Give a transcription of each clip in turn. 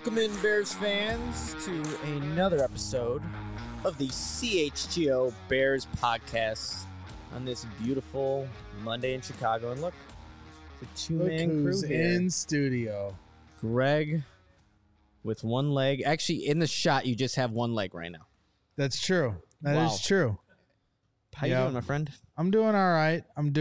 Welcome in, Bears fans, to another episode of the CHGO Bears podcast on this beautiful Monday in Chicago. And look, it's a two-man crew here. In studio. Greg with one leg. Actually, in the shot, you just have one leg right now. That's true. That Wow. is true. How you doing, my friend? I'm doing all right.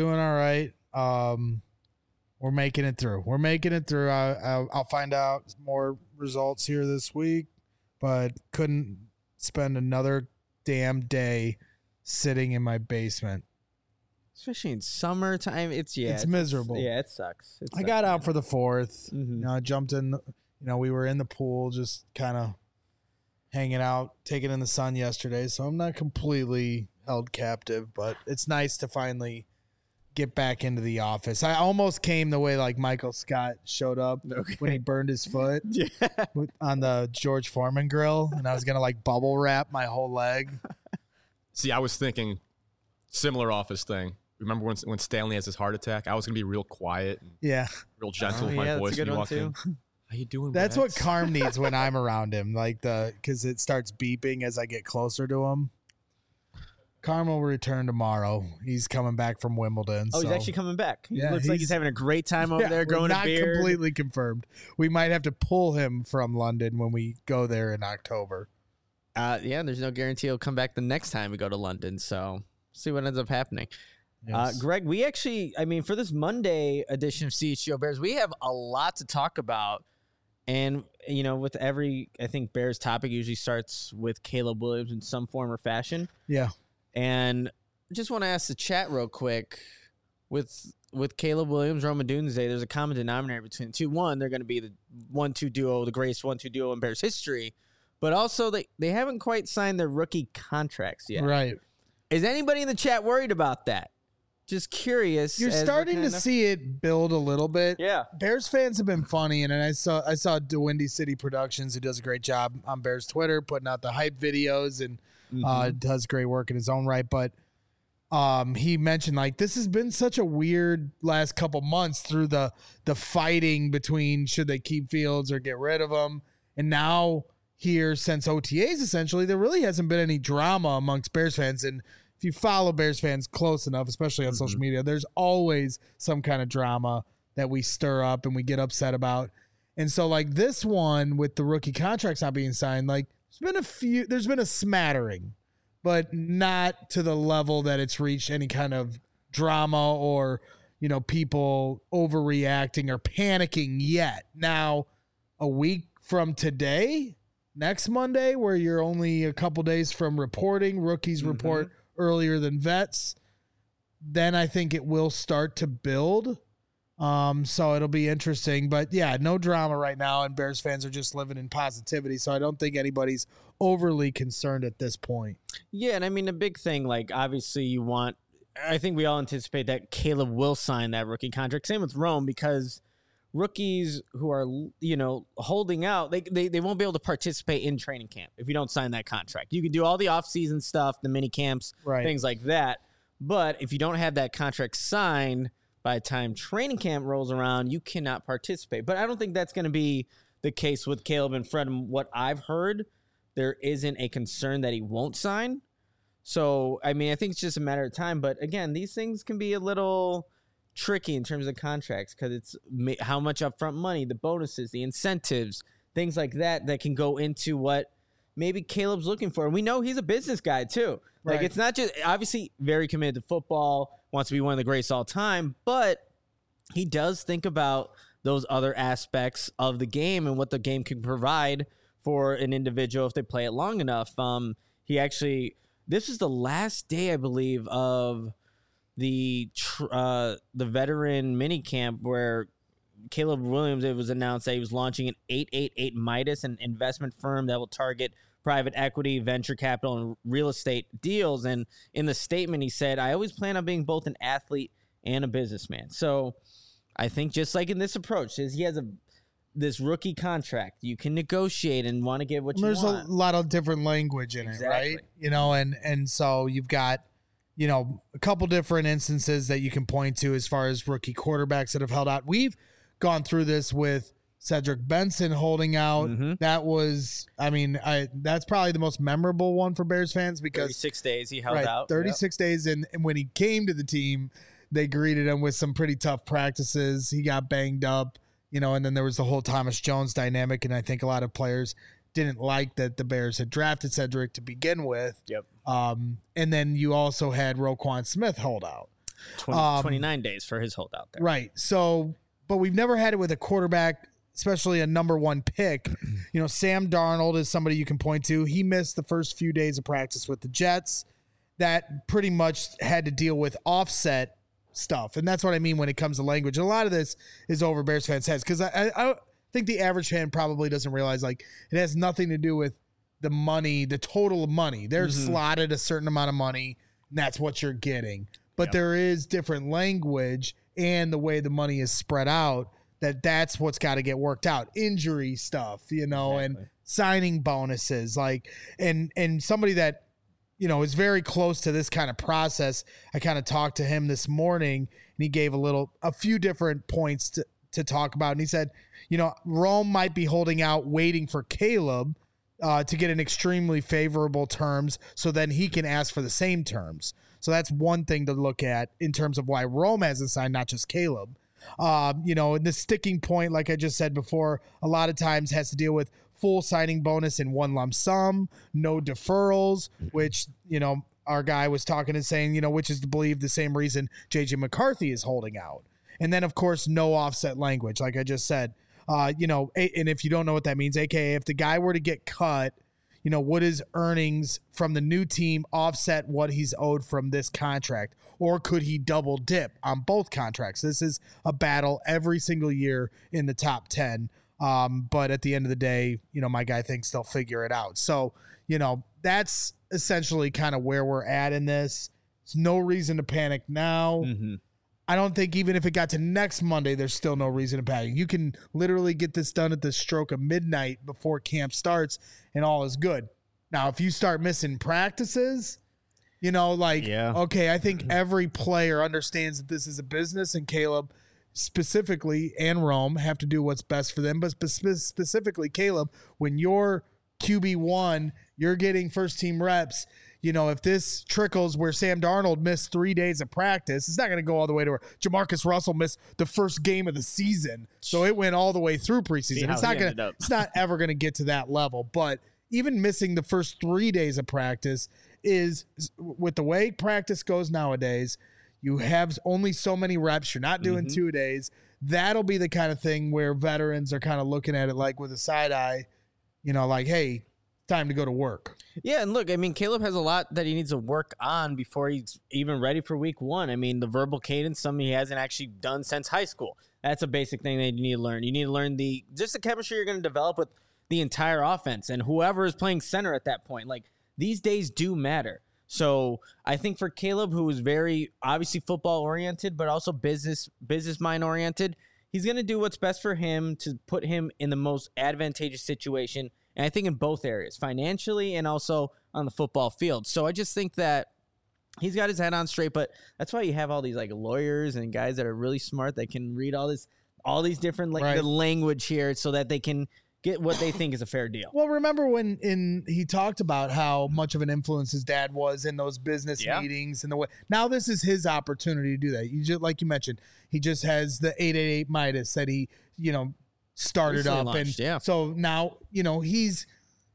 We're making it through. I'll find out more results here this week, but couldn't spend another damn day sitting in my basement. Especially in summertime, it's miserable. Yeah, it sucks. I got out for the 4th. Mhm. I jumped in. We were in the pool, just kind of hanging out, taking in the sun yesterday. So I'm not completely held captive, but it's nice to finally get back into the office. I almost came the way like Michael Scott showed up when he burned his foot on the George Foreman grill, and I was gonna like bubble wrap my whole leg. See, I was thinking similar office thing. Remember when Stanley has his heart attack? I was gonna be real quiet, and Yeah, real gentle with Oh, my yeah, that's voice a good when you one, walk in. too. How you doing? that's what Rex? Carm needs when I'm around him, like because it starts beeping as I get closer to him. Carm will return tomorrow. He's coming back from Wimbledon. Oh, he's so- actually coming back. He Yeah, looks like he's having a great time over there, we're growing a not beard. completely confirmed. We might have to pull him from London when we go there in October. Yeah, there's no guarantee he'll come back the next time we go to London. So see what ends up happening. Yes. Greg, we actually, for this Monday edition of CHGO Bears, we have a lot to talk about. And, with every, I think, Bears topic usually starts with Caleb Williams in some form or fashion. Yeah. And I just want to ask the chat real quick. With Caleb Williams, Rome Odunze, there's a common denominator between the two. One, they're going to be the 1-2 duo, the greatest 1-2 duo in Bears history. But also, they haven't quite signed their rookie contracts yet. Right. Is anybody in the chat worried about that? Just curious. You're as we're starting to kind of- see it build a little bit. Yeah. Bears fans have been funny, and I saw DeWindy City Productions, who does a great job on Bears Twitter, putting out the hype videos and does great work in his own right. But he mentioned like this has been such a weird last couple months through the fighting between should they keep Fields or get rid of him, and now here since OTAs essentially there really hasn't been any drama amongst Bears fans. And if you follow Bears fans close enough, especially on social media, there's always some kind of drama that we stir up and we get upset about. And so like this one with the rookie contracts not being signed, like there's been a smattering, but not to the level that it's reached any kind of drama or, people overreacting or panicking yet. Now, a week from today, next Monday, where you're only a couple days from reporting, rookies report earlier than vets, then I think it will start to build. So it'll be interesting, but yeah, no drama right now, and Bears fans are just living in positivity. So I don't think anybody's overly concerned at this point. Yeah, and the big thing, like, obviously I think we all anticipate that Caleb will sign that rookie contract. Same with Rome, because rookies who are, holding out, they won't be able to participate in training camp if you don't sign that contract. You can do all the off-season stuff, the mini camps, Right. things like that. But if you don't have that contract signed by the time training camp rolls around, you cannot participate. But I don't think that's going to be the case with Caleb and Fred. And what I've heard, there isn't a concern that he won't sign. So, I think it's just a matter of time. But again, these things can be a little tricky in terms of contracts because it's how much upfront money, the bonuses, the incentives, things like that can go into what maybe Caleb's looking for. And we know he's a business guy too. Like, Right. it's not just obviously very committed to football, wants to be one of the greatest all time, but he does think about those other aspects of the game and what the game can provide for an individual if they play it long enough. This is the last day, I believe, of the veteran mini camp where Caleb Williams, it was announced that he was launching an 888 Midas, an investment firm that will target private equity, venture capital, and real estate deals. And in the statement, he said, I always plan on being both an athlete and a businessman. So I think just like in this approach, he has this rookie contract. You can negotiate and want to get what you There's want. a lot of different language in Exactly. it, right? And so you've got, a couple different instances that you can point to as far as rookie quarterbacks that have held out. We've gone through this with Cedric Benson holding out. Mhm. That was, I mean, that's probably the most memorable one for Bears fans because 36 days he held right, out. 36 days. And when he came to the team, they greeted him with some pretty tough practices. He got banged up, and then there was the whole Thomas Jones dynamic. And I think a lot of players didn't like that the Bears had drafted Cedric to begin with. Yep. And then you also had Roquan Smith hold out. 29 days for his holdout there. Right. So, but we've never had it with a quarterback, especially a number one pick. Sam Darnold is somebody you can point to. He missed the first few days of practice with the Jets. That pretty much had to deal with offset stuff. And that's what I mean when it comes to language. And a lot of this is over Bears fans' heads because I think the average fan probably doesn't realize it has nothing to do with the money, the total of money. They're slotted a certain amount of money, and that's what you're getting. But there is different language and the way the money is spread out. That's what's got to get worked out. Injury stuff, and signing bonuses, and somebody that, is very close to this kind of process. I kind of talked to him this morning and he gave a few different points to talk about. And he said, Rome might be holding out, waiting for Caleb to get an extremely favorable terms. So then he can ask for the same terms. So that's one thing to look at in terms of why Rome hasn't signed, not just Caleb. And the sticking point, like I just said before, a lot of times has to deal with full signing bonus in one lump sum, no deferrals, which, our guy was talking and saying, which is to believe the same reason JJ McCarthy is holding out. And then, of course, no offset language, like I just said. And if you don't know what that means, AKA if the guy were to get cut, would his earnings from the new team offset what he's owed from this contract? Or could he double dip on both contracts? This is a battle every single year in the top 10. But at the end of the day, my guy thinks they'll figure it out. So, that's essentially kind of where we're at in this. There's no reason to panic now. Mm-hmm. I don't think even if it got to next Monday, there's still no reason to panic. You can literally get this done at the stroke of midnight before camp starts and all is good. Now, if you start missing practices, okay, I think every player understands that this is a business and Caleb specifically and Rome have to do what's best for them. But specifically, Caleb, when you're QB1, you're getting first team reps. If this trickles where Sam Darnold missed 3 days of practice, it's not going to go all the way to where Jamarcus Russell missed the first game of the season. So it went all the way through preseason. It's not ever going to get to that level. But even missing the first 3 days of practice is, with the way practice goes nowadays, you have only so many reps. You're not doing 2 days. That'll be the kind of thing where veterans are kind of looking at it like with a side eye, hey, time to go to work. Yeah, and look, I mean, Caleb has a lot that he needs to work on before he's even ready for week one. I mean, the verbal cadence, something he hasn't actually done since high school. That's a basic thing that you need to learn. You need to learn the chemistry you're going to develop with the entire offense and whoever is playing center at that point. These days do matter. So I think for Caleb, who is very obviously football oriented, but also business mind oriented, he's going to do what's best for him to put him in the most advantageous situation. And I think in both areas, financially and also on the football field. So I just think that he's got his head on straight, but that's why you have all these lawyers and guys that are really smart that can read all these different the language here so that they can get what they think is a fair deal. Well, remember when he talked about how much of an influence his dad was in those business meetings and the way. Now this is his opportunity to do that. You just, like you mentioned, he just has the 888 Midas that he, started recently up launched, and so now he's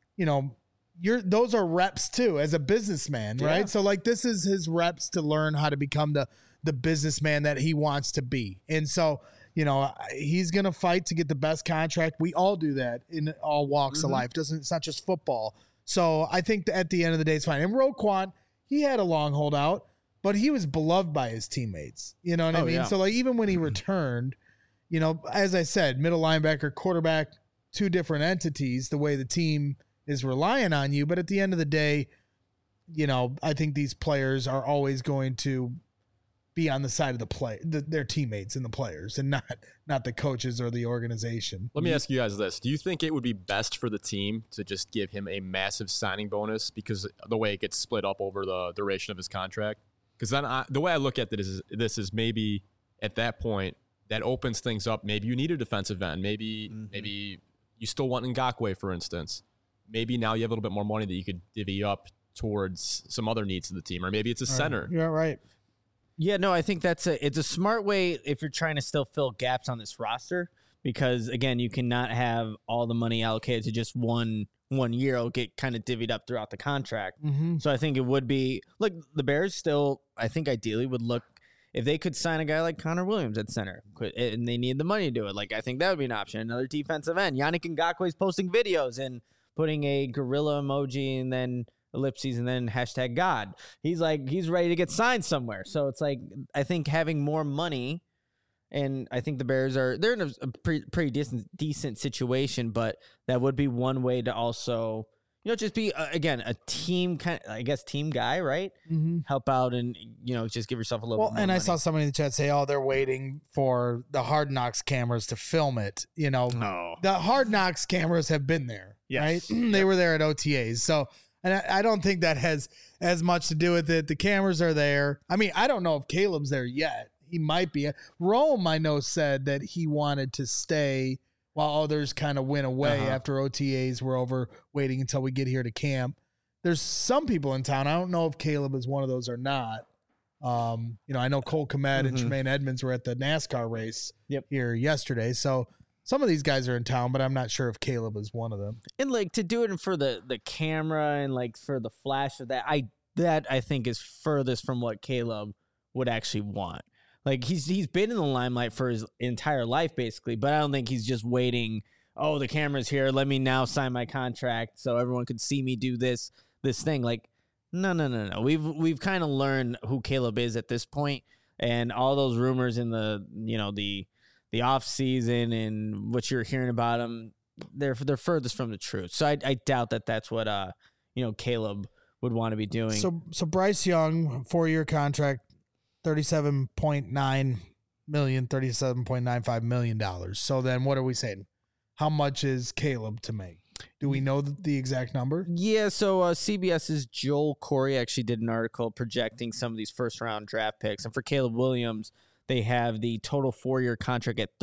those are reps too as a businessman, right? So this is his reps to learn how to become the businessman that he wants to be. And so he's gonna fight to get the best contract. We all do that in all walks of life. It's not just football. So I think that at the end of the day it's fine. And Roquan, he had a long holdout, but he was beloved by his teammates. You know what I mean? Yeah. So even when he returned, as I said, middle linebacker, quarterback, two different entities, the way the team is relying on you. But at the end of the day, I think these players are always going to be on the side of their teammates and the players and not the coaches or the organization. Let me ask you guys this. Do you think it would be best for the team to just give him a massive signing bonus because the way it gets split up over the duration of his contract? Because then the way I look at this is maybe at that point, that opens things up. Maybe you need a defensive end. Maybe you still want Ngakoue, for instance. Maybe now you have a little bit more money that you could divvy up towards some other needs of the team, or maybe it's a center. Yeah, right. Yeah, no, I think it's a smart way if you're trying to still fill gaps on this roster, because again, you cannot have all the money allocated to just one year. It'll get kind of divvied up throughout the contract. So I think it would be like the Bears still, I think ideally would look, if they could sign a guy like Connor Williams at center and they need the money to do it, like I think that would be an option. Another defensive end. Yannick Ngakoue is posting videos and putting a gorilla emoji and then ellipses and then hashtag God. He's ready to get signed somewhere. So it's like, I think having more money, and I think the Bears they're in a pretty decent situation, but that would be one way to also, just be again a team kind of, I guess, team guy, right? Help out and just give yourself a little. Well, bit more and money. I saw somebody in the chat say, "Oh, they're waiting for the Hard Knocks cameras to film it." No. The Hard Knocks cameras have been there, Yes. right? They were there at OTAs, so. And I don't think that has as much to do with it. The cameras are there. I mean, I don't know if Caleb's there yet. He might be. Rome, I know, said that he wanted to stay while others kind of went away after OTAs were over, waiting until we get here to camp. There's some people in town. I don't know if Caleb is one of those or not. I know Cole Kmet and Tremaine Edmonds were at the NASCAR race here yesterday. So some of these guys are in town, but I'm not sure if Caleb is one of them. And like to do it for the camera and like for the flash of that, I think is furthest from what Caleb would actually want. Like he's been in the limelight for his entire life basically, but I don't think he's just waiting. Oh, the camera's here. Let me now sign my contract so everyone could see me do this thing. Like, no. We've kind of learned who Caleb is at this point, and all those rumors in the off season and what you're hearing about him, they're furthest from the truth. So I doubt that that's what Caleb would want to be doing. So Bryce Young, 4-year contract, $37.9 million, $37.95 million. So then what are we saying? How much is Caleb to make? Do we know the exact number? Yeah, so CBS's Joel Corey actually did an article projecting some of these first-round draft picks. And for Caleb Williams, they have the total 4-year contract at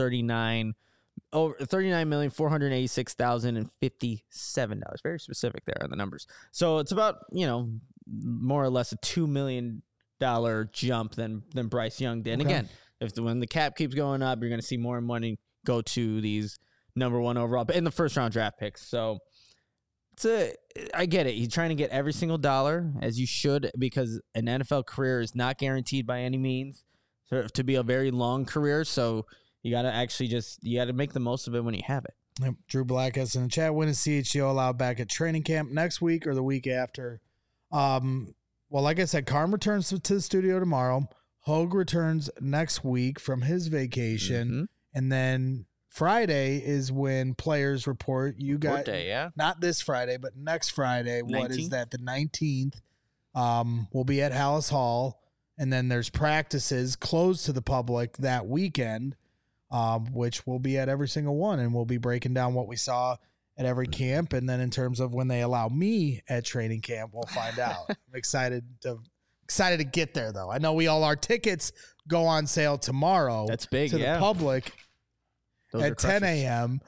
$39,486,057. Very specific there on the numbers. So it's about, more or less a $2 million jump than Bryce Young did. And again, when the cap keeps going up, you're going to see more money go to these number one overall, but in the first round draft picks. So I get it. He's trying to get every single dollar, as you should, because an NFL career is not guaranteed by any means to be a very long career. So you got to make the most of it when you have it. Yep. Drew Black has in the chat, when is CHGO allowed back at training camp, next week or the week after? Well, like I said, Carm returns to the studio tomorrow. Hogue returns next week from his vacation. And then Friday is when players report. You got day, yeah. Not this Friday, but next Friday. 19th? What is that? The 19th. We'll be at Hallis Hall, and then there's practices closed to the public that weekend, which we'll be at every single one, and we'll be breaking down what we saw at every camp. And then in terms of when they allow me at training camp, we'll find out. I'm excited to get there, though. I know our tickets go on sale tomorrow. That's big, to the public. Those at 10 a.m.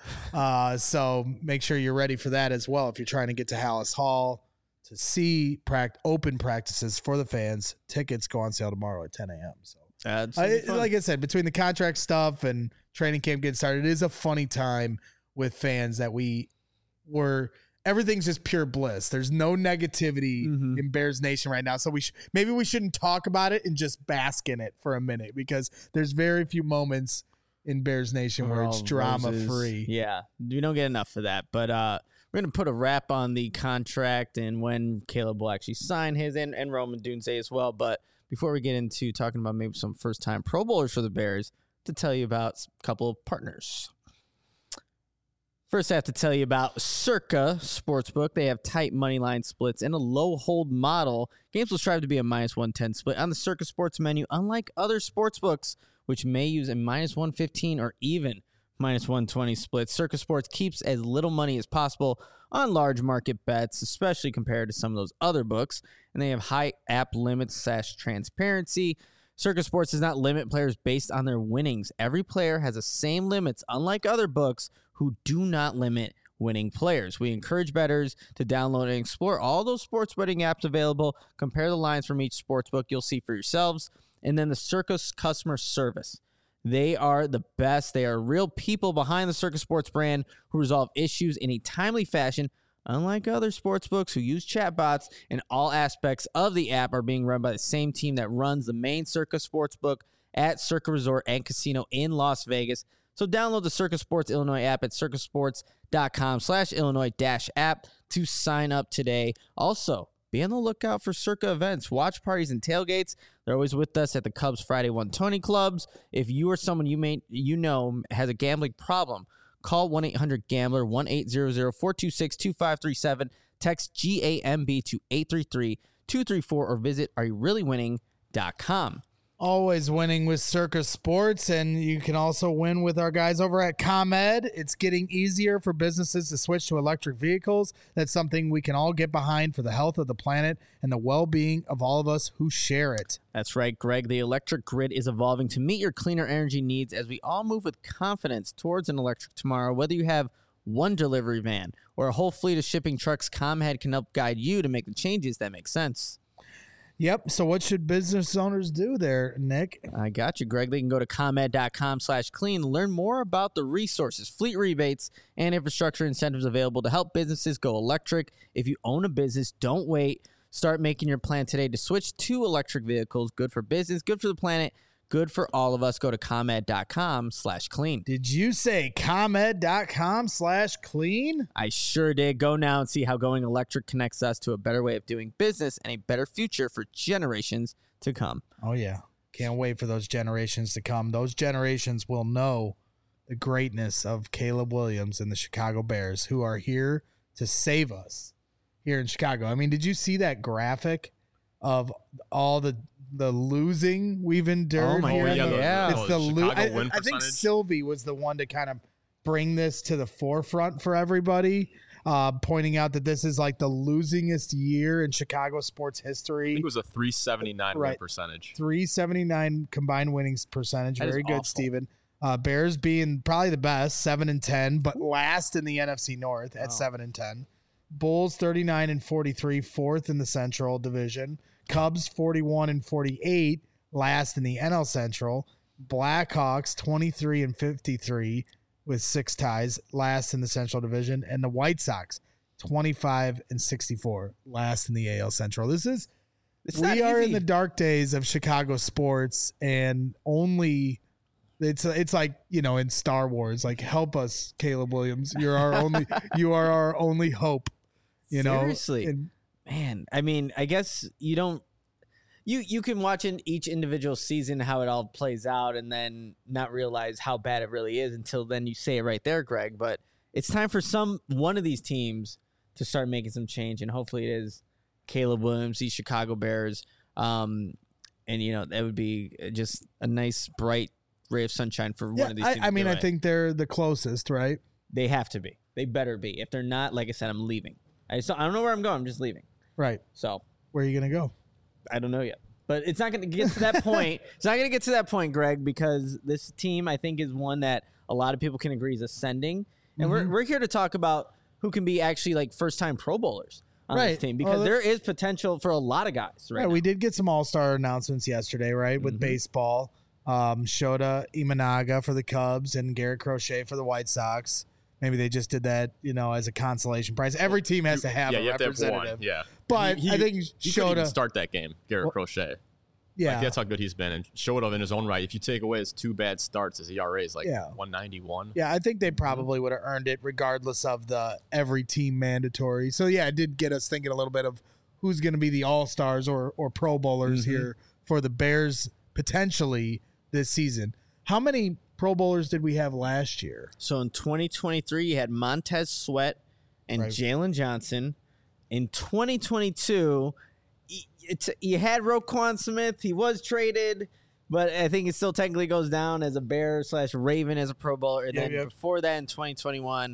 So make sure you're ready for that as well. If you're trying to get to Hallis Hall to see open practices for the fans, tickets go on sale tomorrow at 10 a.m. So like I said, between the contract stuff and training camp getting started, it is a funny time with fans that everything's just pure bliss. There's no negativity in Bears Nation right now. So maybe we shouldn't talk about it and just bask in it for a minute, because there's very few moments in Bears Nation where it's drama free. Yeah, we don't get enough of that. But we're going to put a wrap on the contract and when Caleb will actually sign his, and Roman Dunze as well. But before we get into talking about maybe some first-time Pro Bowlers for the Bears, to tell you about a couple of partners. First, I have to tell you about Circa Sportsbook. They have tight money line splits and a low hold model. Games will strive to be a -110 split on the Circa Sports menu, unlike other sportsbooks, which may use a -115 or even -120 split. Circa Sports keeps as little money as possible on large market bets, especially compared to some of those other books. And they have high app limits / transparency. Circa Sports does not limit players based on their winnings. Every player has the same limits, unlike other books who do not limit winning players. We encourage bettors to download and explore all those sports betting apps available. Compare the lines from each sports book you'll see for yourselves. And then the Circa customer service. They are the best. They are real people behind the Circa Sports brand who resolve issues in a timely fashion. Unlike other sportsbooks who use chatbots, and all aspects of the app are being run by the same team that runs the main Circa Sportsbook at Circa Resort and Casino in Las Vegas. So download the Circa Sports Illinois app at circasports.com/Illinois-app to sign up today. Also, be on the lookout for Circa events, watch parties, and tailgates. They're always with us at the Cubs Friday 120 clubs. If you or someone you know has a gambling problem, call 1-800-GAMBLER, 1-800-426-2537. Text GAMB to 833-234 or visit areyoureallywinning.com. Always winning with Circa Sports, and you can also win with our guys over at ComEd. It's getting easier for businesses to switch to electric vehicles. That's something we can all get behind for the health of the planet and the well-being of all of us who share it. That's right, Greg. The electric grid is evolving to meet your cleaner energy needs as we all move with confidence towards an electric tomorrow. Whether you have one delivery van or a whole fleet of shipping trucks, ComEd can help guide you to make the changes that make sense. Yep. So what should business owners do there, Nick? I got you, Greg. They can go to ComEd.com/clean to learn more about the resources, fleet rebates, and infrastructure incentives available to help businesses go electric. If you own a business, don't wait. Start making your plan today to switch to electric vehicles. Good for business, good for the planet, good for all of us. Go to ComEd.com/clean. Did you say ComEd.com/clean? I sure did. Go now and see how going electric connects us to a better way of doing business and a better future for generations to come. Oh, yeah. Can't wait for those generations to come. Those generations will know the greatness of Caleb Williams and the Chicago Bears, who are here to save us here in Chicago. I mean, did you see that graphic of all the losing we've endured? Oh my here? God, yeah. It's the Chicago win I think percentage. Sylvie was the one to kind of bring this to the forefront for everybody, pointing out that this is like the losingest year in Chicago sports I history. think it was a 379 win Right. percentage. 379 combined winnings percentage. That is Very good, awful. Steven. Bears being probably the best, 7-10, but last in the NFC North at 7-10. Bulls 39-43, fourth in the Central Division. Cubs 41-48, last in the NL Central. Blackhawks 23-53 with 6 ties, last in the Central Division, and the White Sox 25-64, last in the AL Central. It's not We are easy. in the dark days of Chicago sports, and only it's like, you know, in Star Wars, like, help us, Caleb Williams. You are our only hope. You know, Seriously. And Man, I mean, I guess you don't. You can watch in each individual season how it all plays out, and then not realize how bad it really is until then you say it right there, Greg. But it's time for one of these teams to start making some change, and hopefully it is Caleb Williams, these Chicago Bears, and you know that would be just a nice bright ray of sunshine for one of these teams. I mean, to do I it. think they're the closest, right? They have to be. They better be. If they're not, like I said, I'm leaving. I don't know where I'm going. I'm just leaving. Right. So Where are you gonna go? I don't know yet. But it's not going to get to that point. It's not going to get to that point, Greg, because this team, I think, is one that a lot of people can agree is ascending. And we're here to talk about who can be actually like first-time Pro Bowlers on this Right. team, because there is potential for a lot of guys. Right. Yeah, now. we did get some all-star announcements yesterday, right? With baseball. Shota Imanaga for the Cubs and Garrett Crochet for the White Sox. Maybe they just did that, you know, as a consolation prize. Every team has to have a you have to have representative. one. Yeah. But I think he couldn't even Shota, start that game, Garrett Crochet. yeah, Like, that's how good he's been. And Shota in his own right, if you take away his 2 bad starts, his ERA is like Yeah. 191. yeah, I think they probably would have earned it regardless of the every team mandatory. So yeah, it did get us thinking a little bit of who's going to be the all-stars or Pro Bowlers here for the Bears potentially this season. How many Pro Bowlers did we have last year? So in 2023, you had Montez Sweat and Right. Jalen Johnson. In 2022, you had Roquan Smith. He was traded, but I think it still technically goes down as a Bear / Raven as a Pro Bowler. And then before that, in 2021,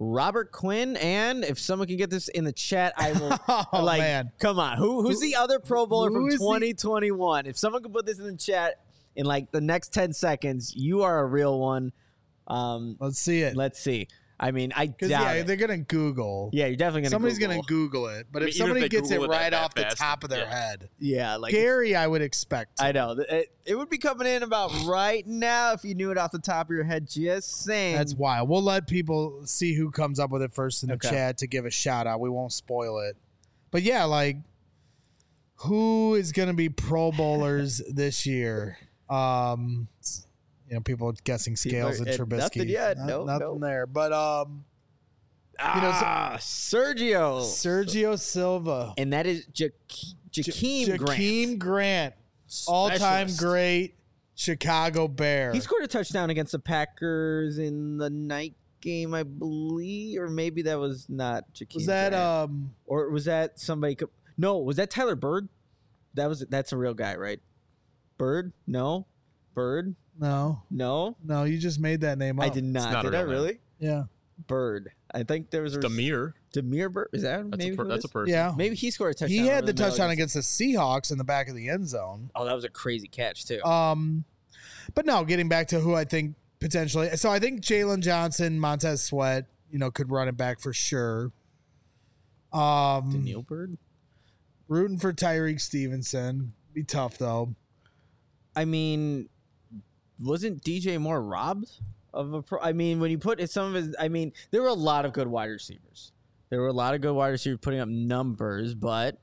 Robert Quinn, and if someone can get this in the chat, I will. Oh, man. Come on, who's the other Pro Bowler who from is the- 2021? If someone can put this in the chat in like the next 10 seconds, you are a real one. Let's see it. Let's see. I mean, I doubt Because yeah, it. they're gonna Google. Yeah, you're definitely gonna. Somebody's Google. gonna Google it, but I mean, if even if somebody they gets it Google it right that off the fast, top of their yeah. head, Yeah, like Gary, I would expect. I know it would be coming in about right now if you knew it off the top of your head. Just saying. That's wild. We'll let people see who comes up with it first in the Okay. chat to give a shout out. We won't spoil it. But yeah, like who is going to be Pro Bowlers this year? People guessing Scales and Trubisky. nothing yet. Nothing Nope. there. But Sergio. Sergio Silva, And that is Jakeem Grant. Jakeem Grant, all-time Specialist. great Chicago Bear. He scored a touchdown against the Packers in the night game, I believe, or maybe that was not Jakeem. Was that Grant. Or was that somebody? No, was that Tyler Bird? That's a real guy, right? Bird? No. Bird? no, you just made that name up. I did not. not a Did I real name. really? Yeah. Bird. I think there was a Demir. Bird. Is that That's maybe? a who it that's a is? person. Yeah. Maybe he scored a touchdown. He had over the middle touchdown against the Seahawks in the back of the end zone. Oh, that was a crazy catch too. But no, getting back to who I think potentially. So I think Jalen Johnson, Montez Sweat, could run it back for sure. Daniil Bird. Rooting for Tyreek Stevenson. Be tough though. I mean, wasn't DJ Moore robbed of a pro? I mean, when you put some of his, I mean, there were a lot of good wide receivers. There were a lot of good wide receivers putting up numbers, but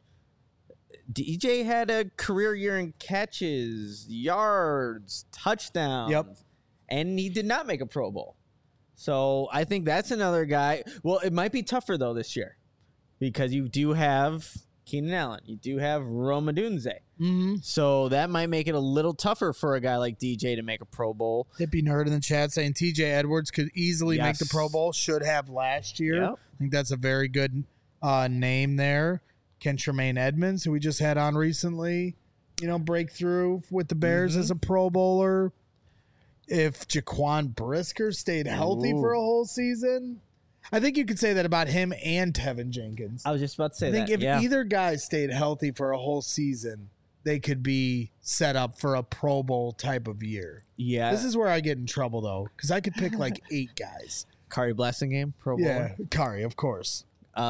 DJ had a career year in catches, yards, touchdowns. Yep. And he did not make a Pro Bowl. So I think that's another guy. Well, it might be tougher though this year because you do have Keenan Allen. You do have Rome Odunze. Mm-hmm. So that might make it a little tougher for a guy like DJ to make a Pro Bowl. Hippie Nerd in the chat saying TJ Edwards could easily make the Yes. Pro Bowl. Should have last year. Yep. I think that's a very good name there. Ken Tremaine Edmonds, who we just had on recently, breakthrough with the Bears as a Pro Bowler. If Jaquan Brisker stayed healthy for a whole season, I think you could say that about him and Tevin Jenkins. I was just about to say I think that. if yeah. either guy stayed healthy for a whole season, they could be set up for a Pro Bowl type of year. Yeah. This is where I get in trouble, though, because I could pick like 8 guys. Kari Blessing game, Pro Bowl. Yeah, Kari, of course.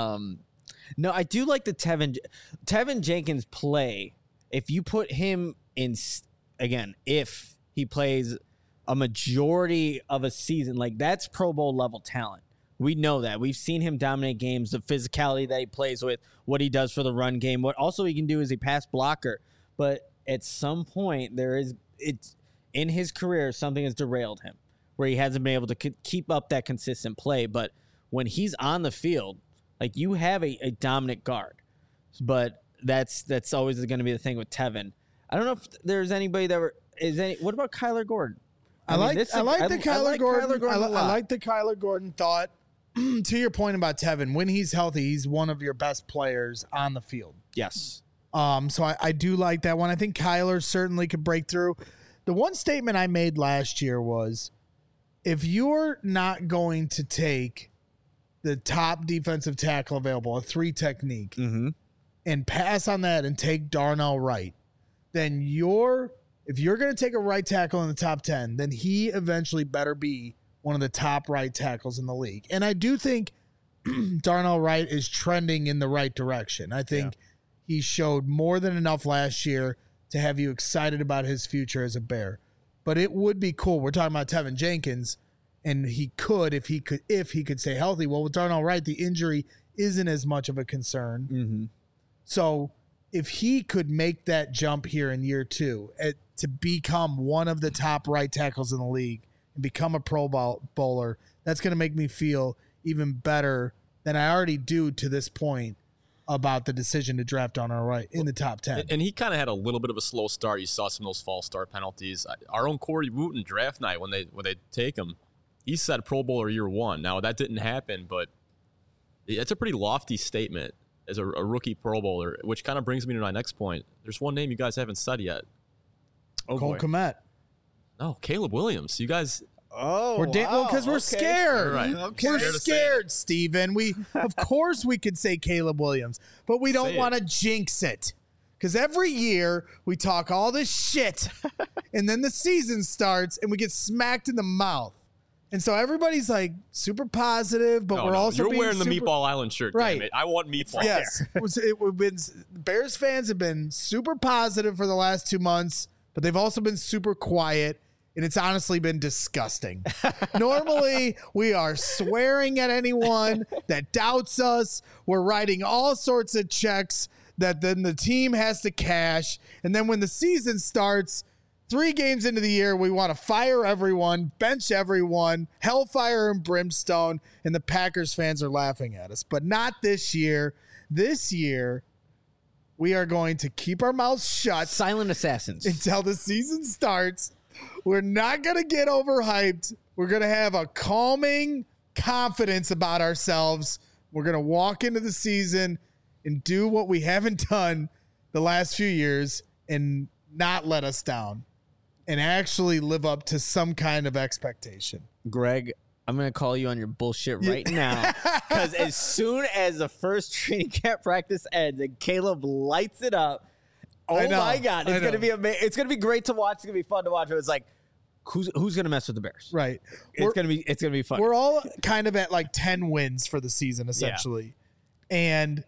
No, I do like the Tevin Jenkins play. If you put him in, again, if he plays a majority of a season, like that's Pro Bowl level talent. We know that. We've seen him dominate games, the physicality that he plays with, what he does for the run game. What also he can do is a pass blocker. But at some point, it's in his career, something has derailed him where he hasn't been able to keep up that consistent play. But when he's on the field, like you have a dominant guard. But that's always going to be the thing with Tevin. I don't know if there's anybody what about Kyler Gordon? I like the Kyler Gordon. I a lot. like the Kyler Gordon thought. To your point about Tevin, when he's healthy, he's one of your best players on the field. Yes. So I do like that one. I think Kyler certainly could break through. The one statement I made last year was, if you're not going to take the top defensive tackle available, a 3 technique, and pass on that and take Darnell Wright, then if you're going to take a right tackle in the top 10, then he eventually better be one of the top right tackles in the league. And I do think Darnell Wright is trending in the right direction. I think he showed more than enough last year to have you excited about his future as a Bear. But it would be cool. We're talking about Tevin Jenkins, and he could if he could stay healthy. Well, with Darnell Wright, the injury isn't as much of a concern. So if he could make that jump here in year 2 to become one of the top right tackles in the league and become a Pro Bowler, that's going to make me feel even better than I already do to this point about the decision to draft Darnell Wright in the top 10. And he kind of had a little bit of a slow start. You saw some of those false start penalties. Our own Corey Wooten draft night, when they take him, he said Pro Bowler year 1. Now, that didn't happen, but it's a pretty lofty statement as a rookie Pro Bowler, which kind of brings me to my next point. There's one name you guys haven't said yet. Cole Kmet. No, Caleb Williams. You guys, Oh, because we're scared. Right. We're Scared to say scared, Steven. Of course we could say Caleb Williams, but we don't Say want to jinx it. Because every year we talk all this shit, and then the season starts and we get smacked in the mouth. And so everybody's like super positive, but we're also you're being wearing the super, Meatball Island shirt. Right. Damn it. I want meatball. Yes, Bears fans have been super positive for the last 2 months, but they've also been super quiet, and it's honestly been disgusting. Normally, we are swearing at anyone that doubts us. We're writing all sorts of checks that then the team has to cash, and then when the season starts, 3 games into the year, we want to fire everyone, bench everyone, hellfire and brimstone, and the Packers fans are laughing at us. But not this year. This year, we are going to keep our mouths shut Silent assassins. until the season starts. We're not going to get overhyped. We're going to have a calming confidence about ourselves. We're going to walk into the season and do what we haven't done the last few years and not let us down and actually live up to some kind of expectation. Greg, I'm going to call you on your bullshit right now, because as soon as the first training camp practice ends and Caleb lights it up, oh my God, it's going to be amazing. It's going to be great to watch. It's going to be fun to watch. It was like, who's going to mess with the Bears? Right. It's going to be fun. We're all kind of at like 10 wins for the season, essentially. Yeah. And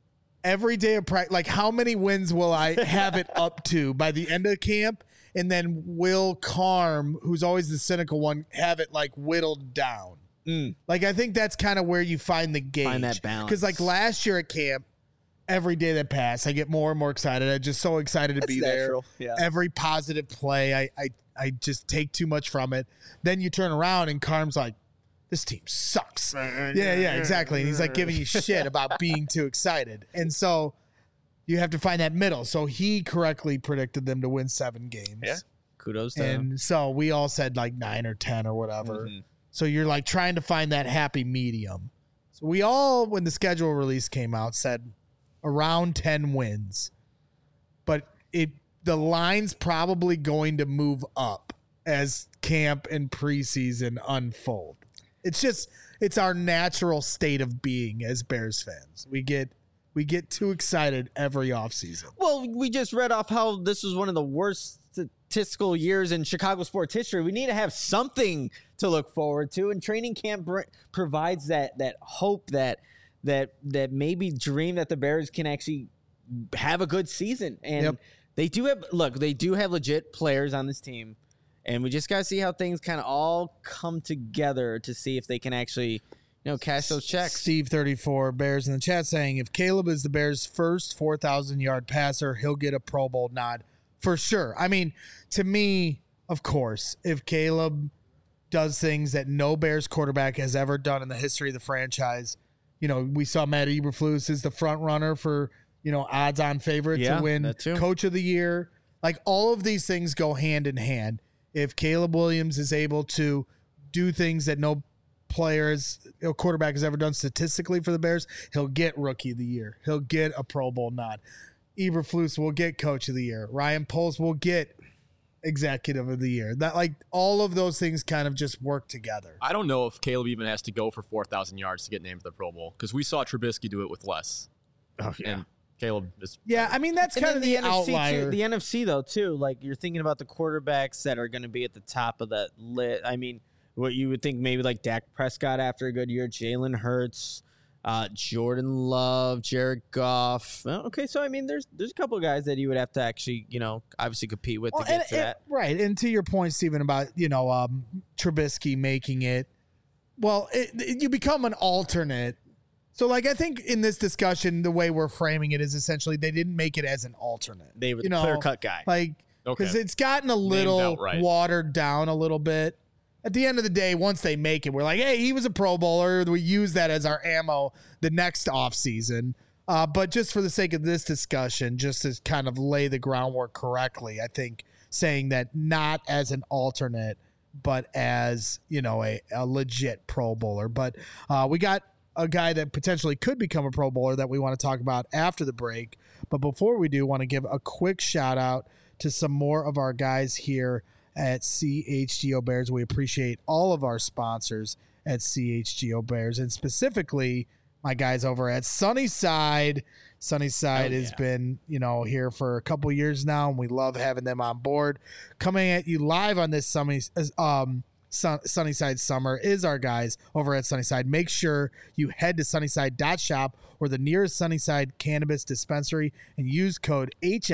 every day of practice, like how many wins will I have it up to by the end of camp? And then will Carm, who's always the cynical one, have it like whittled down? Like, I think that's kind of where you find the gauge. Find that balance. Because like last year at camp, every day that passed, I get more and more excited. I'm just so excited to be natural. there. Yeah. Every positive play, I just take too much from it. Then you turn around and Carm's like, this team sucks. Yeah, exactly. And he's like giving you shit about being too excited. And so you have to find that middle. So he correctly predicted them to win 7 games. Yeah. Kudos to him. And so we all said like 9 or 10 or whatever. Mm-hmm. So you're like trying to find that happy medium. So we all, when the schedule release came out, said around 10 wins. But the line's probably going to move up as camp and preseason unfold. It's our natural state of being as Bears fans. We get too excited every offseason. Well, we just read off how this was one of the worst statistical years in Chicago sports history. We need to have something to look forward to, and training camp provides that hope, that maybe dream that the Bears can actually have a good season. And they do have legit players on this team. And we just got to see how things kind of all come together to see if they can actually, cash those checks. Steve 34 Bears in the chat saying, if Caleb is the Bears' first 4,000-yard passer, he'll get a Pro Bowl nod for sure. I mean, to me, of course, if Caleb does things that no Bears quarterback has ever done in the history of the franchise, we saw Matt Eberflus is the front runner for, odds-on favorite to win Coach of the Year. Like, all of these things go hand in hand. If Caleb Williams is able to do things that no quarterback has ever done statistically for the Bears, he'll get Rookie of the Year. He'll get a Pro Bowl nod. Eberflus will get Coach of the Year. Ryan Poles will get Executive of the Year. That, like, all of those things kind of just work together. I don't know if Caleb even has to go for 4,000 yards to get named to the Pro Bowl, because we saw Trubisky do it with less. Oh, yeah. And Caleb is. Yeah, I mean, that's kind of the outlier. The NFC, though, too. Like, you're thinking about the quarterbacks that are going to be at the top of that list. I mean, what you would think maybe like Dak Prescott after a good year, Jalen Hurts, Jordan Love, Jared Goff. Okay, so I mean, there's a couple of guys that you would have to actually, obviously compete with to get to that. Right, and to your point, Stephen, about Trubisky making it. Well, you become an alternate. So, like, I think in this discussion, the way we're framing it is essentially they didn't make it as an alternate. They were the clear-cut guy. Like, because it's gotten a little watered down a little bit. At the end of the day, once they make it, we're like, hey, he was a Pro Bowler. We use that as our ammo the next offseason. But just for the sake of this discussion, just to kind of lay the groundwork correctly, I think saying that not as an alternate, but as, a legit Pro Bowler. But we got a guy that potentially could become a Pro Bowler that we want to talk about after the break. But before we do, want to give a quick shout out to some more of our guys here at CHGO Bears. We appreciate all of our sponsors at CHGO Bears, and specifically my guys over at Sunnyside. Sunnyside has been, here for a couple years now, and we love having them on board. Coming at you live on this Sunnyside Summer is our guys over at Sunnyside. Make sure you head to sunnyside.shop or the nearest Sunnyside cannabis dispensary and use code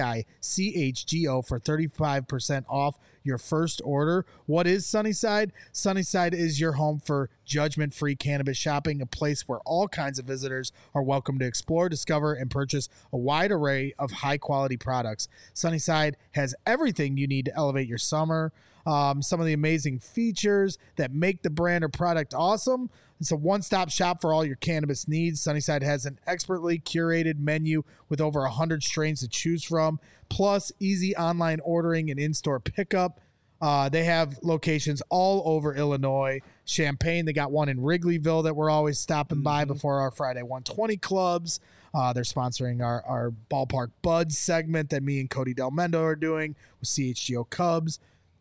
HICHGO for 35% off your first order. What is Sunnyside? Sunnyside is your home for judgment-free cannabis shopping, a place where all kinds of visitors are welcome to explore, discover, and purchase a wide array of high-quality products. Sunnyside has everything you need to elevate your summer. Some of the amazing features that make the brand or product awesome. It's a one-stop shop for all your cannabis needs. Sunnyside has an expertly curated menu with over 100 strains to choose from, plus easy online ordering and in-store pickup. They have locations all over Illinois. Champaign, they got one in Wrigleyville that we're always stopping by before our Friday 120 clubs. They're sponsoring our Ballpark Buds segment that me and Cody Del Mendo are doing with CHGO Cubs.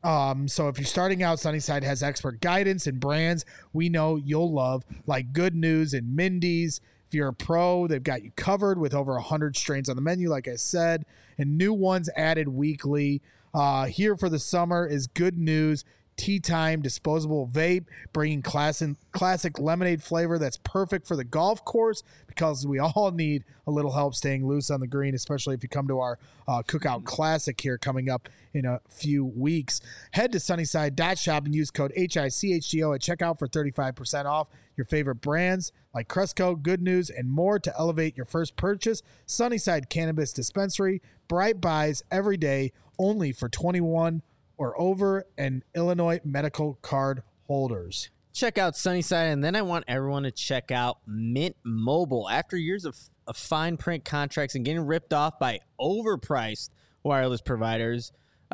So if you're starting out, Sunnyside has expert guidance and brands we know you'll love, like Good News and Mindy's. If you're a pro, they've got you covered with over 100 strains on the menu, like I said, and new ones added weekly. Here for the summer is Good News Tea Time disposable vape, bringing classic lemonade flavor that's perfect for the golf course, because we all need a little help staying loose on the green, especially if you come to our Cookout Classic here coming up in a few weeks. Head to sunnyside.shop and use code HICHGO at checkout for 35% off your favorite brands like Cresco, Good News, and more to elevate your first purchase. Sunnyside Cannabis Dispensary, bright buys every day, only for 21 or over, and Illinois medical card holders. Check out Sunnyside, and then I want everyone to check out Mint Mobile. After years of fine print contracts and getting ripped off by overpriced wireless providers,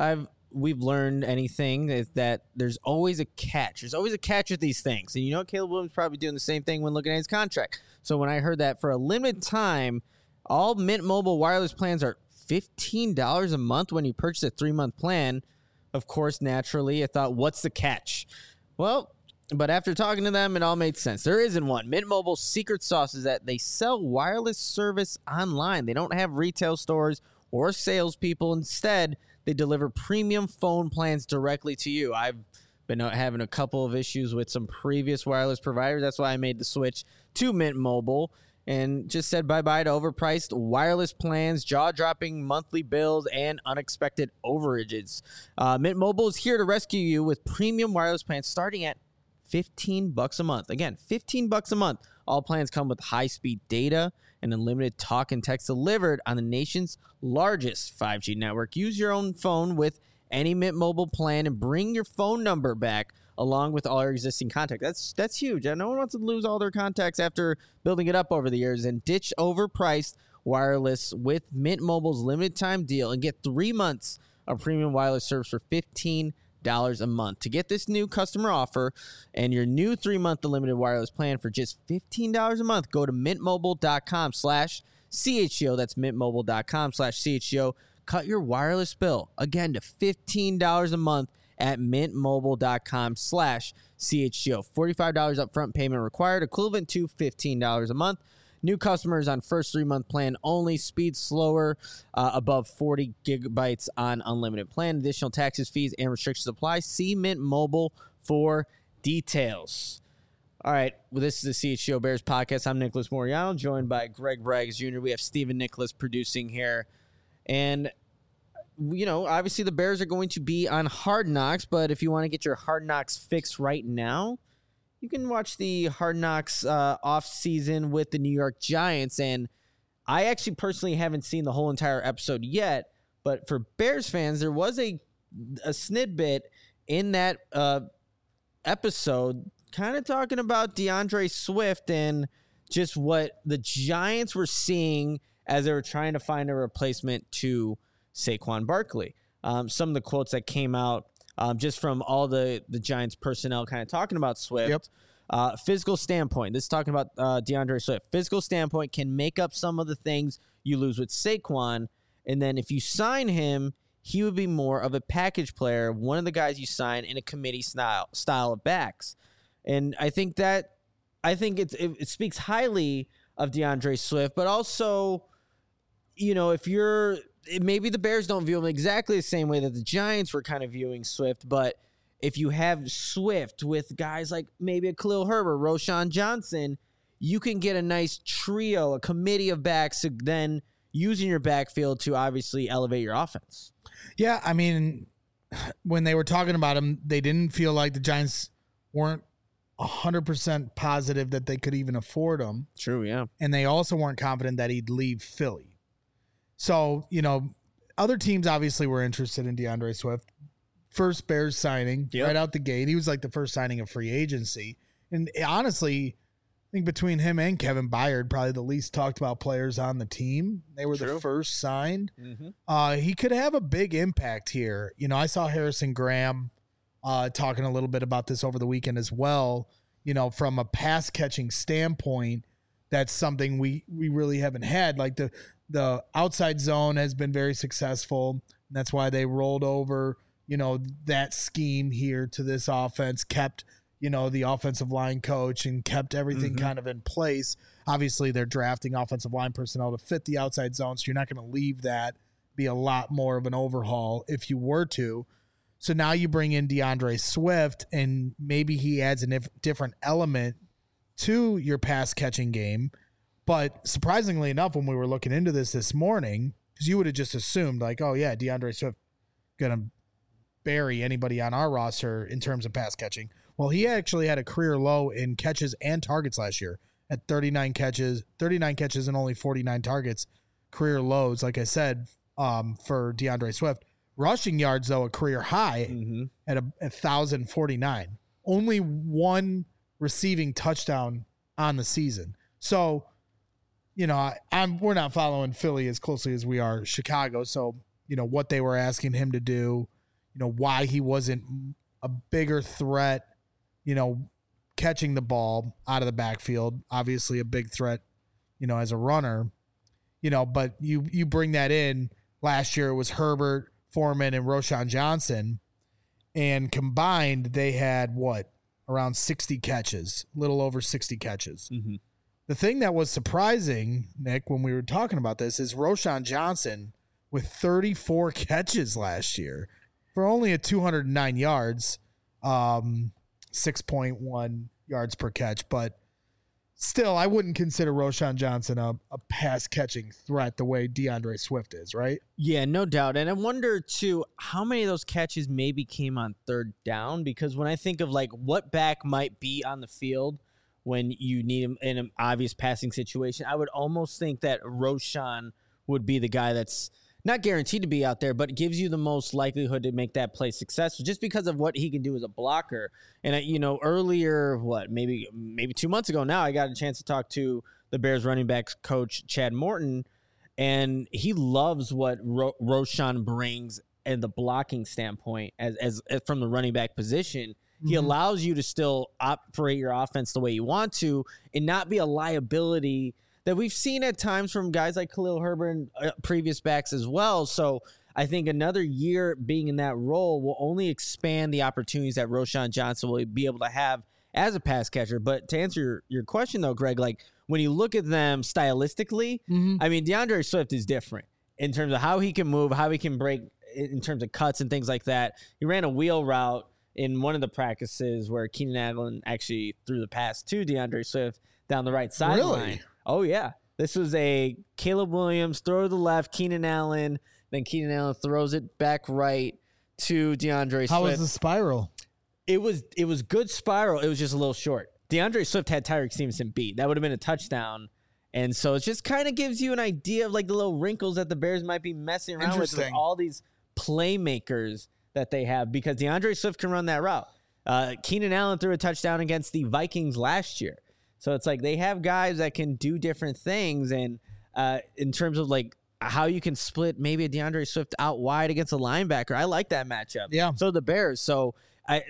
we've learned anything is that there's always a catch. There's always a catch with these things. And Caleb Williams probably doing the same thing when looking at his contract. So when I heard that for a limited time, all Mint Mobile wireless plans are $15 a month when you purchase a 3-month plan. Of course, naturally, I thought, what's the catch? Well, but after talking to them, it all made sense. There isn't one. Mint Mobile's secret sauce is that they sell wireless service online. They don't have retail stores or salespeople. Instead, they deliver premium phone plans directly to you. I've been having a couple of issues with some previous wireless providers. That's why I made the switch to Mint Mobile and just said bye-bye to overpriced wireless plans, jaw-dropping monthly bills, and unexpected overages. Mint Mobile is here to rescue you with premium wireless plans starting at $15 a month. Again, $15 a month. All plans come with high-speed data and unlimited talk and text delivered on the nation's largest 5G network. Use your own phone with any Mint Mobile plan and bring your phone number back along with all your existing contacts. That's huge. No one wants to lose all their contacts after building it up over the years. And ditch overpriced wireless with Mint Mobile's limited time deal and get 3 months of premium wireless service for $15 a month. To get this new customer offer and your new 3-month unlimited wireless plan for just $15 a month, go to mintmobile.com/CHGO. That's mintmobile.com/CHGO. Cut your wireless bill again to $15 a month at mintmobile.com/CHGO. $45 upfront payment required, equivalent to $15 a month. New customers on first 3-month plan only. Speed slower, above 40 gigabytes on unlimited plan. Additional taxes, fees, and restrictions apply. See Mint Mobile for details. All right, well, this is the CHGO Bears podcast. I'm Nicholas Moriano, joined by Greg Braggs Jr. We have Stephen Nicholas producing here. And obviously the Bears are going to be on Hard Knocks, but if you want to get your Hard Knocks fix right now, you can watch the Hard Knocks off season with the New York Giants. And I actually personally haven't seen the whole entire episode yet, but for Bears fans, there was a snidbit in that episode kind of talking about DeAndre Swift and just what the Giants were seeing as they were trying to find a replacement to Saquon Barkley. Some of the quotes that came out just from all the Giants personnel kind of talking about Swift. Yep. Physical standpoint, this is talking about DeAndre Swift. Physical standpoint can make up some of the things you lose with Saquon, and then if you sign him, he would be more of a package player, one of the guys you sign in a committee style of backs. And I think it speaks highly of DeAndre Swift, but also, if maybe the Bears don't view him exactly the same way that the Giants were kind of viewing Swift, but if you have Swift with guys like maybe a Khalil Herbert, Roschon Johnson, you can get a nice trio, a committee of backs to then use in your backfield to obviously elevate your offense. Yeah, I mean, when they were talking about him, they didn't feel like the Giants weren't 100% positive that they could even afford him. True, yeah. And they also weren't confident that he'd leave Philly. So, other teams obviously were interested in DeAndre Swift. First Bears signing right out the gate. He was like the first signing of free agency. And honestly, I think between him and Kevin Byard, probably the least talked about players on the team. They were the first signed. Mm-hmm. He could have a big impact here. I saw Harrison Graham talking a little bit about this over the weekend as well. From a pass catching standpoint, that's something we really haven't had. Like the outside zone has been very successful. And that's why they rolled over, that scheme here to this offense, kept, the offensive line coach and kept everything kind of in place. Obviously, they're drafting offensive line personnel to fit the outside zone, so you're not going to leave that. Be a lot more of an overhaul if you were to. So now you bring in DeAndre Swift, and maybe he adds a different element to your pass catching game. But surprisingly enough, when we were looking into this morning, because you would have just assumed like, oh yeah, DeAndre Swift going to bury anybody on our roster in terms of pass catching. Well, he actually had a career low in catches and targets last year at 39 catches and only 49 targets, career lows, like I said, for DeAndre Swift. Rushing yards, though, a career high at 1,049. Only one receiving touchdown on the season. So, we're not following Philly as closely as we are Chicago. So, what they were asking him to do, why he wasn't a bigger threat, catching the ball out of the backfield. Obviously a big threat, as a runner, but you bring that in. Last year it was Herbert, Foreman, and Roschon Johnson, and combined they had around 60 catches, a little over 60 catches. Mm-hmm. The thing that was surprising, Nick, when we were talking about this, is Roschon Johnson with 34 catches last year for only 209 yards, 6.1 yards per catch, but still, I wouldn't consider Roschon Johnson a pass-catching threat the way DeAndre Swift is, right? Yeah, no doubt. And I wonder, too, how many of those catches maybe came on third down? Because when I think of, what back might be on the field when you need him in an obvious passing situation, I would almost think that Roschon would be the guy that's not guaranteed to be out there, but gives you the most likelihood to make that play successful just because of what he can do as a blocker. And, earlier, maybe 2 months ago now, I got a chance to talk to the Bears running backs coach, Chad Morton, and he loves what Roschon brings in the blocking standpoint as from the running back position. Mm-hmm. He allows you to still operate your offense the way you want to and not be a liability that we've seen at times from guys like Khalil Herbert and previous backs as well. So I think another year being in that role will only expand the opportunities that Roschon Johnson will be able to have as a pass catcher. But to answer your question, though, Greg, when you look at them stylistically, I mean, DeAndre Swift is different in terms of how he can move, how he can break in terms of cuts and things like that. He ran a wheel route in one of the practices where Keenan Allen actually threw the pass to DeAndre Swift down the right sideline. Really? Oh, yeah. This was a Caleb Williams throw to the left, Keenan Allen, then Keenan Allen throws it back right to DeAndre Swift. How was the spiral? It was good spiral. It was just a little short. DeAndre Swift had Tyreek Stevenson beat. That would have been a touchdown. And so it just kind of gives you an idea of the little wrinkles that the Bears might be messing around with all these playmakers that they have because DeAndre Swift can run that route. Keenan Allen threw a touchdown against the Vikings last year. So it's they have guys that can do different things. And in terms of how you can split maybe a DeAndre Swift out wide against a linebacker, I like that matchup. Yeah. So the Bears. So I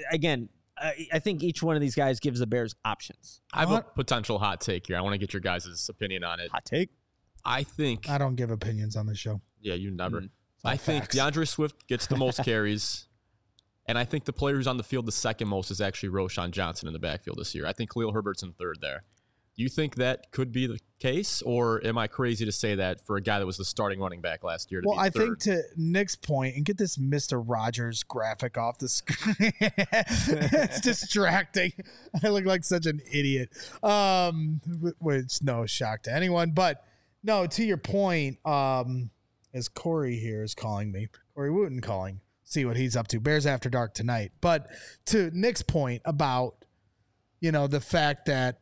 think each one of these guys gives the Bears options. I have a potential hot take here. I want to get your guys' opinion on it. Hot take? I think. I don't give opinions on the show. Yeah, you never. I think DeAndre Swift gets the most carries. And I think the player who's on the field the second most is actually Roschon Johnson in the backfield this year. I think Khalil Herbert's in third there. Do you think that could be the case, or am I crazy to say that for a guy that was the starting running back last year? I think to Nick's point, and get this Mr. Rogers graphic off the screen. It's distracting. I look like such an idiot, which no shock to anyone. But no, to your point, as Corey here is calling me, Corey Wooten calling, see what he's up to. Bears After Dark tonight. But to Nick's point about, the fact that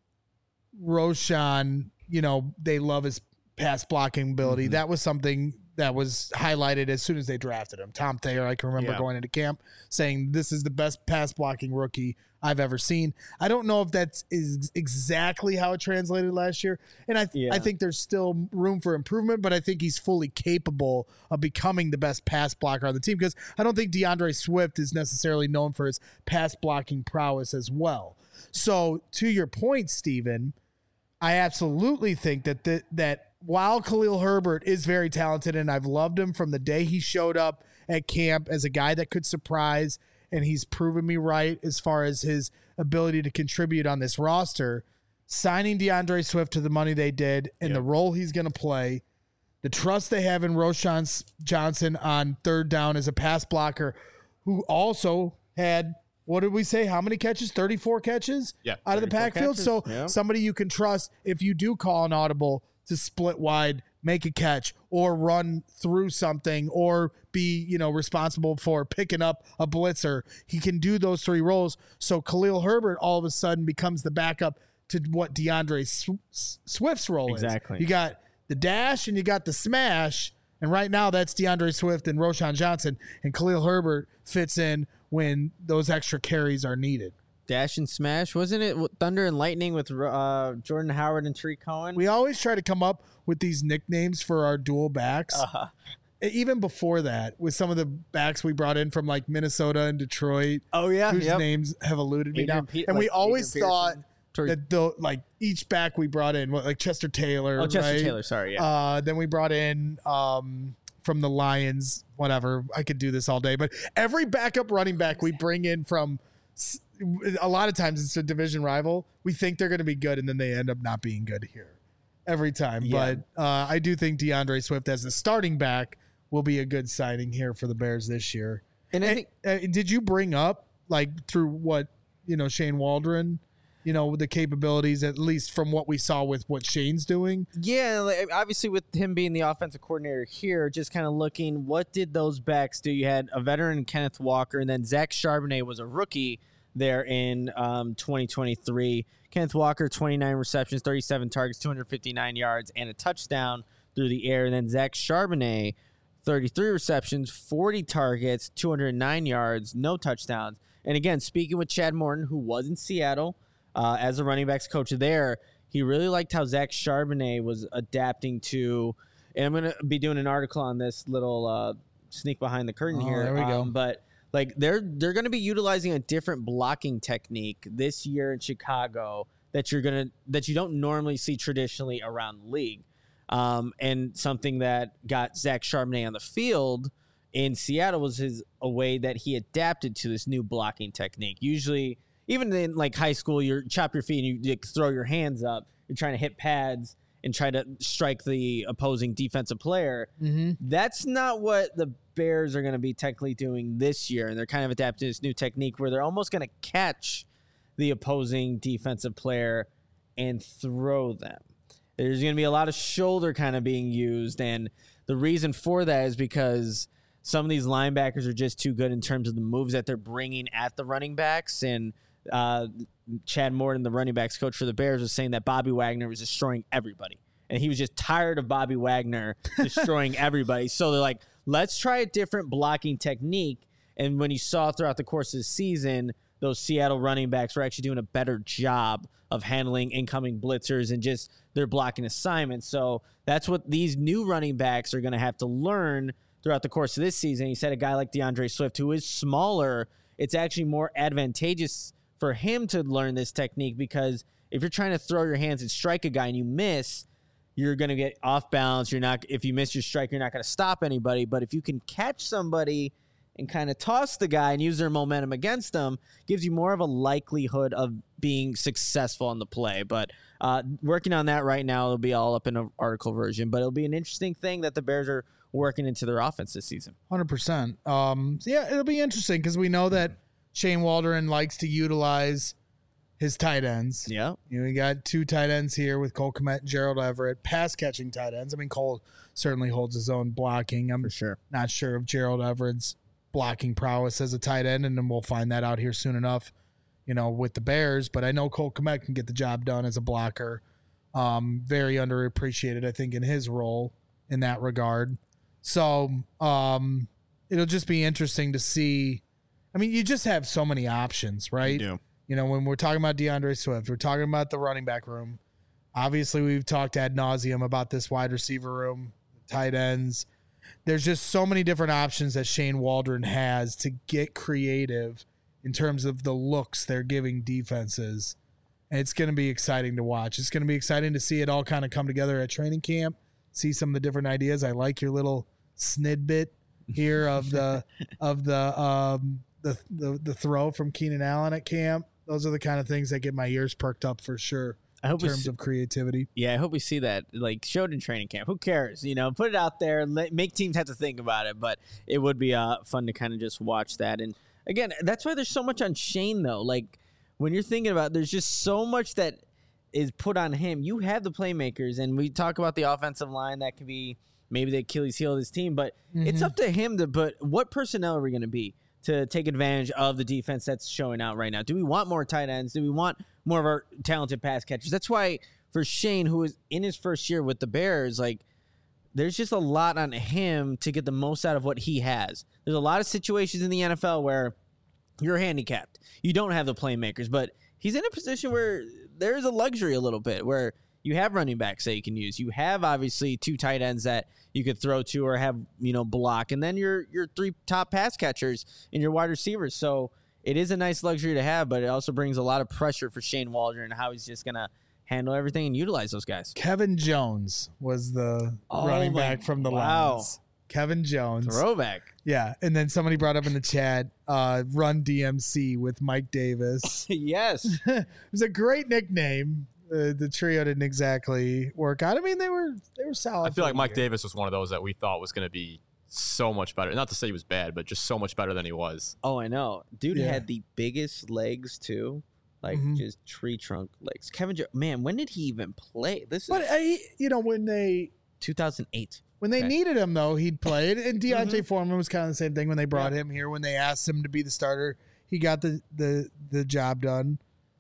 Roschon, they love his pass blocking ability. Mm-hmm. That was something that was highlighted as soon as they drafted him. Tom Thayer, I can remember going into camp saying this is the best pass blocking rookie I've ever seen. I don't know if that's exactly how it translated last year. And I think there's still room for improvement, but I think he's fully capable of becoming the best pass blocker on the team, because I don't think DeAndre Swift is necessarily known for his pass blocking prowess as well. So to your point, Steven, I absolutely think that while Khalil Herbert is very talented, and I've loved him from the day he showed up at camp as a guy that could surprise, and he's proven me right as far as his ability to contribute on this roster, signing DeAndre Swift to the money they did and the role he's going to play, the trust they have in Roschon Johnson on third down as a pass blocker, who also had, what did we say? How many catches? 34 catches out of the backfield. So somebody you can trust if you do call an audible to split wide, make a catch, or run through something, or be, responsible for picking up a blitzer. He can do those three roles. So Khalil Herbert all of a sudden becomes the backup to what DeAndre Swift's role is. Exactly. You got the dash and you got the smash. And right now that's DeAndre Swift and Roschon Johnson, and Khalil Herbert fits in when those extra carries are needed. Dash and smash. Wasn't it Thunder and Lightning with Jordan Howard and Tariq Cohen? We always try to come up with these nicknames for our dual backs. Even before that, with some of the backs we brought in from like Minnesota and Detroit. Oh, yeah. Whose names have eluded me now. And we always thought that each back we brought in, like Chester Taylor. Oh, Chester Taylor. Sorry. Yeah. Then we brought in from the Lions, whatever. I could do this all day. But every backup running back we bring in from, a lot of times it's a division rival. We think they're going to be good, and then they end up not being good here every time. Yeah. But I do think DeAndre Swift as the starting back will be a good signing here for the Bears this year. And I think, did you bring up, like, through what, Shane Waldron, the capabilities, at least from what we saw with what Shane's doing? Yeah, like, obviously with him being the offensive coordinator here, just kind of looking, what did those backs do? You had a veteran, Kenneth Walker, and then Zach Charbonnet was a rookie there in 2023. Kenneth Walker, 29 receptions, 37 targets, 259 yards, and a touchdown through the air. And then Zach Charbonnet, 33 receptions, 40 targets, 209 yards, no touchdowns. And again, speaking with Chad Morton, who was in Seattle as a running backs coach there, he really liked how Zach Charbonnet was adapting to, and I'm going to be doing an article on this little sneak behind the curtain here. There we go. But like they're going to be utilizing a different blocking technique this year in Chicago that you don't normally see traditionally around the league. And something that got Zach Charbonnet on the field in Seattle was a way that he adapted to this new blocking technique. Usually, even in like high school, you chop your feet and you throw your hands up. You're trying to hit pads and try to strike the opposing defensive player. Mm-hmm. That's not what the Bears are going to be technically doing this year. And they're kind of adapting to this new technique where they're almost going to catch the opposing defensive player and throw them. There's going to be a lot of shoulder kind of being used. And the reason for that is because some of these linebackers are just too good in terms of the moves that they're bringing at the running backs. And Chad Morton, the running backs coach for the Bears, was saying that Bobby Wagner was destroying everybody. And he was just tired of Bobby Wagner destroying everybody. So they're like, let's try a different blocking technique. And when you saw throughout the course of the season, those Seattle running backs were actually doing a better job of handling incoming blitzers and just their blocking assignments. So that's what these new running backs are going to have to learn throughout the course of this season. He said a guy like DeAndre Swift, who is smaller, it's actually more advantageous for him to learn this technique, because if you're trying to throw your hands and strike a guy and you miss, you're going to get off balance. If you miss your strike, you're not going to stop anybody. But if you can catch somebody and kind of toss the guy and use their momentum against them, gives you more of a likelihood of being successful on the play. But working on that right now, it'll be all up in an article version. But it'll be an interesting thing that the Bears are working into their offense this season. 100%. Yeah, it'll be interesting because we know that Shane Waldron likes to utilize his tight ends. Yeah. We got 2 tight ends here with Cole Kmet and Gerald Everett, pass-catching tight ends. I mean, Cole certainly holds his own blocking. I'm For sure. not sure of Gerald Everett's blocking prowess as a tight end, and then we'll find that out here soon enough, with the Bears. But I know Cole Kmet can get the job done as a blocker. Very underappreciated, I think, in his role in that regard. So it'll just be interesting to see. I mean, you just have so many options, right? You do. When we're talking about DeAndre Swift, we're talking about the running back room. Obviously, we've talked ad nauseum about this wide receiver room, tight ends. There's just so many different options that Shane Waldron has to get creative in terms of the looks they're giving defenses. And it's going to be exciting to watch. It's going to be exciting to see it all kind of come together at training camp, see some of the different ideas. I like your little snidbit here of the throw from Keenan Allen at camp. Those are the kind of things that get my ears perked up for sure. I hope in terms of creativity. Yeah, I hope we see that showed in training camp. Who cares? Put it out there. Make teams have to think about it. But it would be fun to kind of just watch that. And again, that's why there's so much on Shane though. Like when you're thinking about, there's just so much that is put on him. You have the playmakers, and we talk about the offensive line that could be maybe the Achilles heel of this team. But it's up to him to put what personnel are we going to be to take advantage of the defense that's showing out right now. Do we want more tight ends? Do we want more of our talented pass catchers? That's why for Shane, who is in his first year with the Bears, there's just a lot on him to get the most out of what he has. There's a lot of situations in the NFL where you're handicapped. You don't have the playmakers, but he's in a position where there's a luxury a little bit where you have running backs that you can use. You have obviously 2 tight ends that you could throw to or have, block. And then your 3 top pass catchers and your wide receivers. So it is a nice luxury to have, but it also brings a lot of pressure for Shane Waldron and how he's just going to handle everything and utilize those guys. Kevin Jones was the running back from the Lions. Kevin Jones. Throwback. Yeah. And then somebody brought up in the chat, Run DMC with Mike Davis. Yes. It was a great nickname. The trio didn't exactly work out. I mean, they were solid. I feel like Mike Davis was one of those that we thought was going to be so much better. Not to say he was bad, but just so much better than he was. Oh, I know. Dude had the biggest legs, too. Just tree trunk legs. Kevin Jones, man, when did he even play? When they 2008. When they needed him, though, he'd played. And Deontay Foreman was kind of the same thing when they brought him here. When they asked him to be the starter, he got the job done.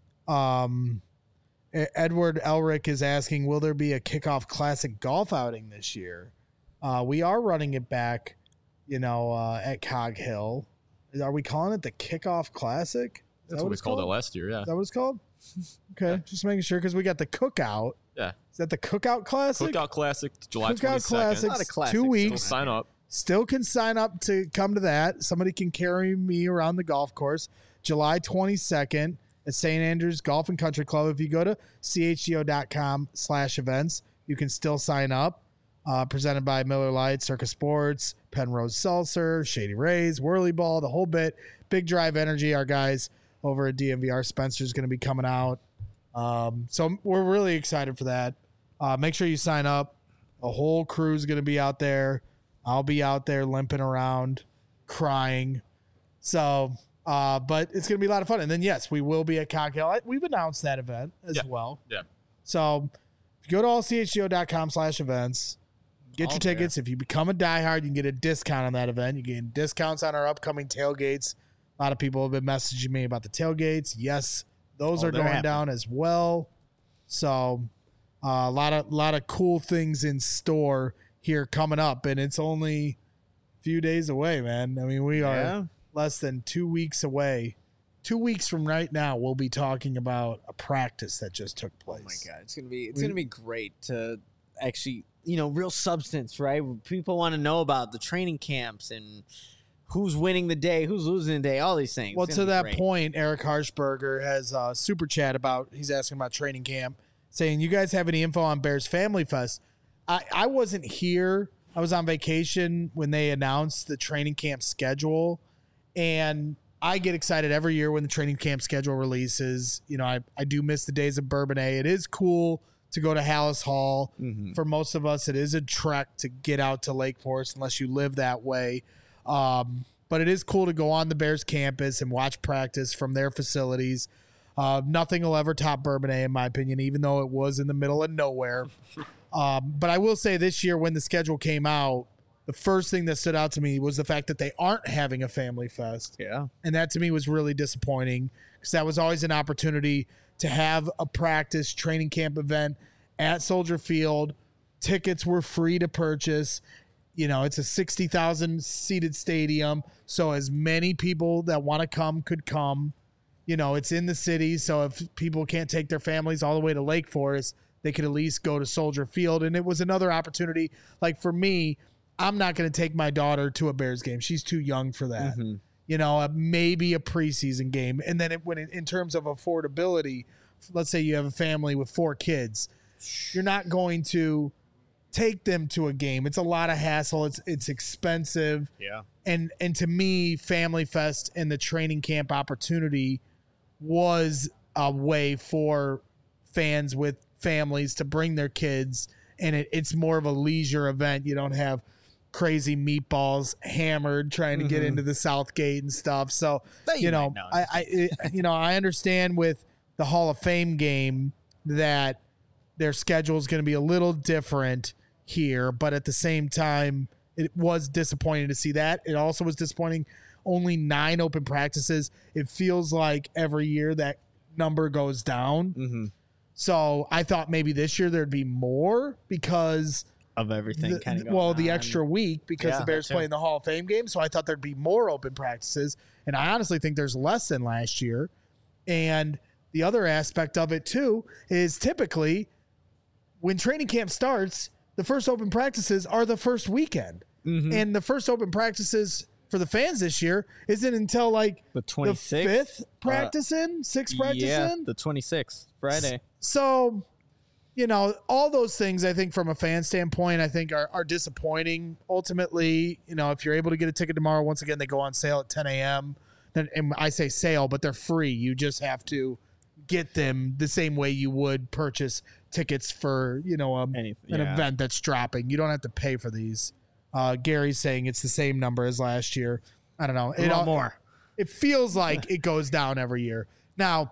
Edward Elric is asking, will there be a Kickoff Classic golf outing this year? We are running it back, at Cog Hill. Are we calling it the Kickoff Classic? That's what we called it last year, yeah. Is that what it's called? Okay, just making sure because we got the Cookout. Yeah. Is that the Cookout Classic? Cookout Classic, July 22nd. Cookout Classic, Not a classic. 2 weeks. Still sign up. Still can sign up to come to that. Somebody can carry me around the golf course. July 22nd at St. Andrews Golf and Country Club. If you go to chgo.com/events, you can still sign up. Presented by Miller Lite, Circus Sports, Penrose Seltzer, Shady Rays, Whirly Ball, the whole bit. Big Drive Energy, our guys over at DMVR. Spencer's going to be coming out. So we're really excited for that. Make sure you sign up. The whole crew's going to be out there. I'll be out there limping around, crying. So, but it's going to be a lot of fun. And then, yes, we will be at Cocktail. We've announced that event as well. Yeah. So if you go to allchgo.com/events, get your tickets. If you become a diehard, you can get a discount on that event. You get discounts on our upcoming tailgates. A lot of people have been messaging me about the tailgates. Yes, those are going down as well. So a lot of cool things in store here coming up, and it's only a few days away, man. I mean, we are less than 2 weeks away. 2 weeks from right now, we'll be talking about a practice that just took place. Oh my God, it's gonna be great to actually, real substance, right? People want to know about the training camps and who's winning the day, who's losing the day, all these things. Well, to that point, Eric Harshberger has a super chat he's asking about training camp. saying, you guys have any info on Bears Family Fest? I wasn't here. I was on vacation when they announced the training camp schedule. And I get excited every year when the training camp schedule releases. You know, I do miss the days of Bourbonnais. It is cool to go to Hallis Hall. For most of us, it is a trek to get out to Lake Forest unless you live that way. But it is cool to go on the Bears campus and watch practice from their facilities. Nothing will ever top Bourbonnais, in my opinion, even though it was in the middle of nowhere. But I will say this year when the schedule came out, the first thing that stood out to me was the fact that they aren't having a Family Fest. Yeah. And that to me was really disappointing because that was always an opportunity to have a practice training camp event at Soldier Field. Tickets were free to purchase. You know, it's a 60,000 seated stadium. So as many people that want to come could come. You know, it's in the city. So if people can't take their families all the way to Lake Forest, they could at least go to Soldier Field. And it was another opportunity. Like for me, I'm not going to take my daughter to a Bears game. She's too young for that. You know, maybe a preseason game. And then in terms of affordability, let's say you have a family with 4 kids, you're not going to take them to a game. It's a lot of hassle. It's expensive. Yeah. And to me, Family Fest and the training camp opportunity was a way for fans with families to bring their kids, and it's more of a leisure event. You don't have crazy meatballs hammered trying to get into the South Gate and stuff. So you know, I understand with the Hall of Fame game that their schedule is going to be a little different here, but at the same time, it was disappointing to see that. It also was disappointing. Only 9 open practices. It feels like every year that number goes down. So I thought maybe this year there'd be more because of everything kind of well, the extra week because the Bears play in the Hall of Fame game. So I thought there'd be more open practices. And I honestly think there's less than last year. And the other aspect of it too is typically when training camp starts, the first open practices are the first weekend. And the first open practices for the fans this year isn't until like the 26th, the 5th practice in, 6th practice in. The 26th, Friday. So, you know, all those things I think from a fan standpoint, I think are disappointing. Ultimately, you know, if you're able to get a ticket tomorrow, once again, they go on sale at 10 a.m. Then, and I say sale, but they're free. You just have to get them the same way you would purchase tickets for, you know, an event that's dropping. You don't have to pay for these. Gary's saying it's the same number as last year. I don't know. More. It feels like it goes down every year. Now,